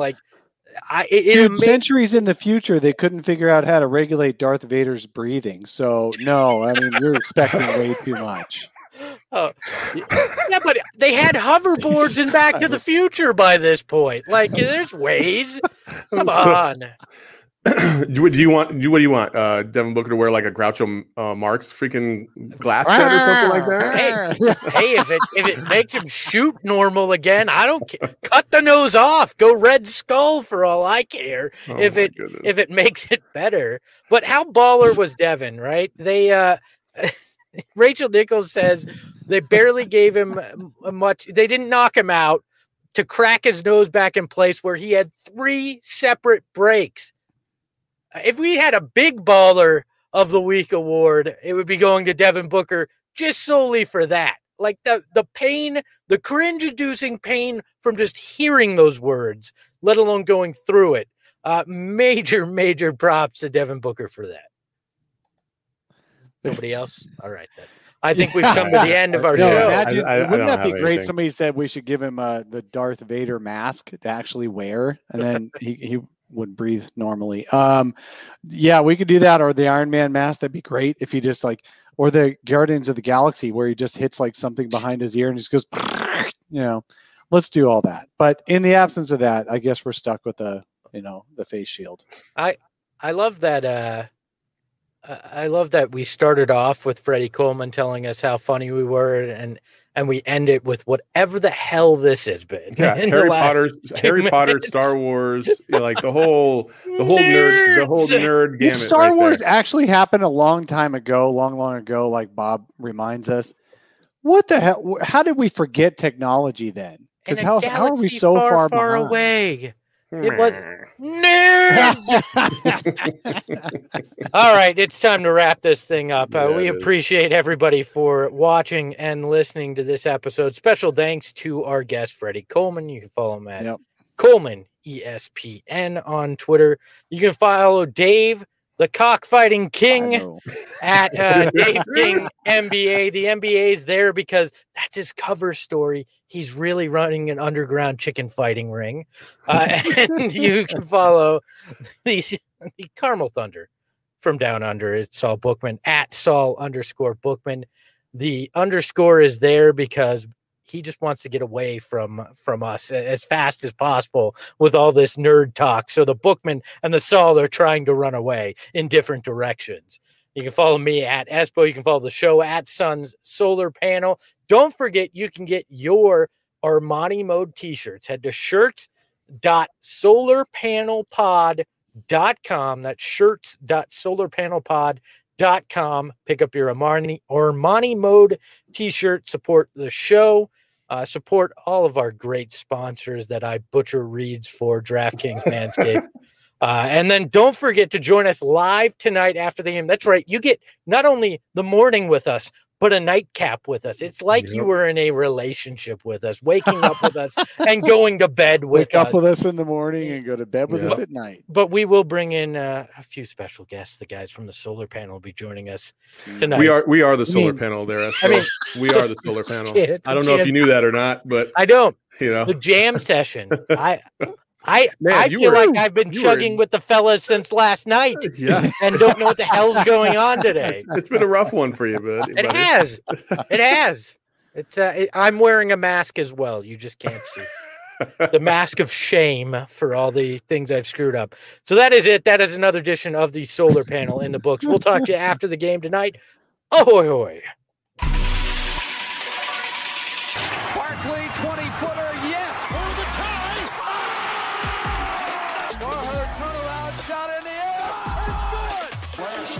Centuries in the future, they couldn't figure out how to regulate Darth Vader's breathing. So no, I mean, you're expecting way too much. Oh, yeah, but they had hoverboards in Back to the Future by this point. There's ways. Come on. What do you want, Devin Booker to wear like a Groucho Marx freaking glass set or something like that? Hey, if it makes him shoot normal again, I don't care. Cut the nose off. Go Red Skull for all I care. If it makes it better. But how baller was Devin, right? They Rachel Nichols says they barely gave him much. They didn't knock him out to crack his nose back in place where he had 3 separate breaks. If we had a big baller of the week award, it would be going to Devin Booker just solely for that. Like the pain, the cringe-inducing pain from just hearing those words, let alone going through it. Major props to Devin Booker for that. Nobody else? All right, then. I think we've come to the end of our show. Imagine, wouldn't that be great? Somebody said we should give him the Darth Vader mask to actually wear, and then he would breathe normally. Yeah, we could do that, or the Iron Man mask. That'd be great if you just like, or the Guardians of the Galaxy where he just hits like something behind his ear and just goes, let's do all that. But in the absence of that, I guess we're stuck with the face shield. I love that. I love that we started off with Freddie Coleman telling us how funny we were, and we end it with whatever the hell this has been. Yeah, Harry Potter, Star Wars, like the whole nerd gamut. If Star right Wars there. actually happened a long ago, like Bob reminds us, what the hell? How did we forget technology then? Because how are we so far behind? Away? It was nerds. All right, it's time to wrap this thing up. We appreciate everybody for watching and listening to this episode. Special thanks to our guest, Freddie Coleman. You can follow him at Coleman ESPN on Twitter. You can follow Dave, the cockfighting king, at Dave King NBA. The NBA is there because that's his cover story. He's really running an underground chicken fighting ring. And you can follow the Carmel Thunder from down under. It's Saul Bookman at Saul_Bookman. The underscore is there because he just wants to get away from us as fast as possible with all this nerd talk. So the Bookman and the Saul are trying to run away in different directions. You can follow me at Espo. You can follow the show at Suns Solar Panel. Don't forget, you can get your Armani Mode t-shirts. Head to shirts.solarpanelpod.com. That's shirts.solarpanelpod.com. Pick up your Armani Mode t-shirt. Support the show. Support all of our great sponsors that I butcher reads for, DraftKings, Manscaped. And then don't forget to join us live tonight after the game. That's right. You get not only the morning with us, but a nightcap with us. It's like you were in a relationship with us, waking up with us and going to bed with us. Wake up with us in the morning and go to bed with us at night. But we will bring in a few special guests. The guys from the solar panel will be joining us tonight. We are the solar panel there. We are the solar panel. I don't know if you knew that or not, but I don't. The jam session. I feel like I've been chugging with the fellas since last night and don't know what the hell's going on today. It's been a rough one for you, buddy. It has. It's I'm wearing a mask as well. You just can't see. The mask of shame for all the things I've screwed up. So that is it. That is another edition of the Solar Panel in the books. We'll talk to you after the game tonight. Ahoy, hoy. Barkley, 20-footer, yes, for the tie. Norher turnaround shot in the air. It's good. Flash,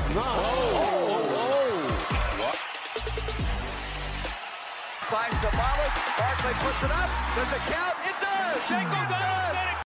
finds the Barkley puts it up. Does it count? It does. Shingle does.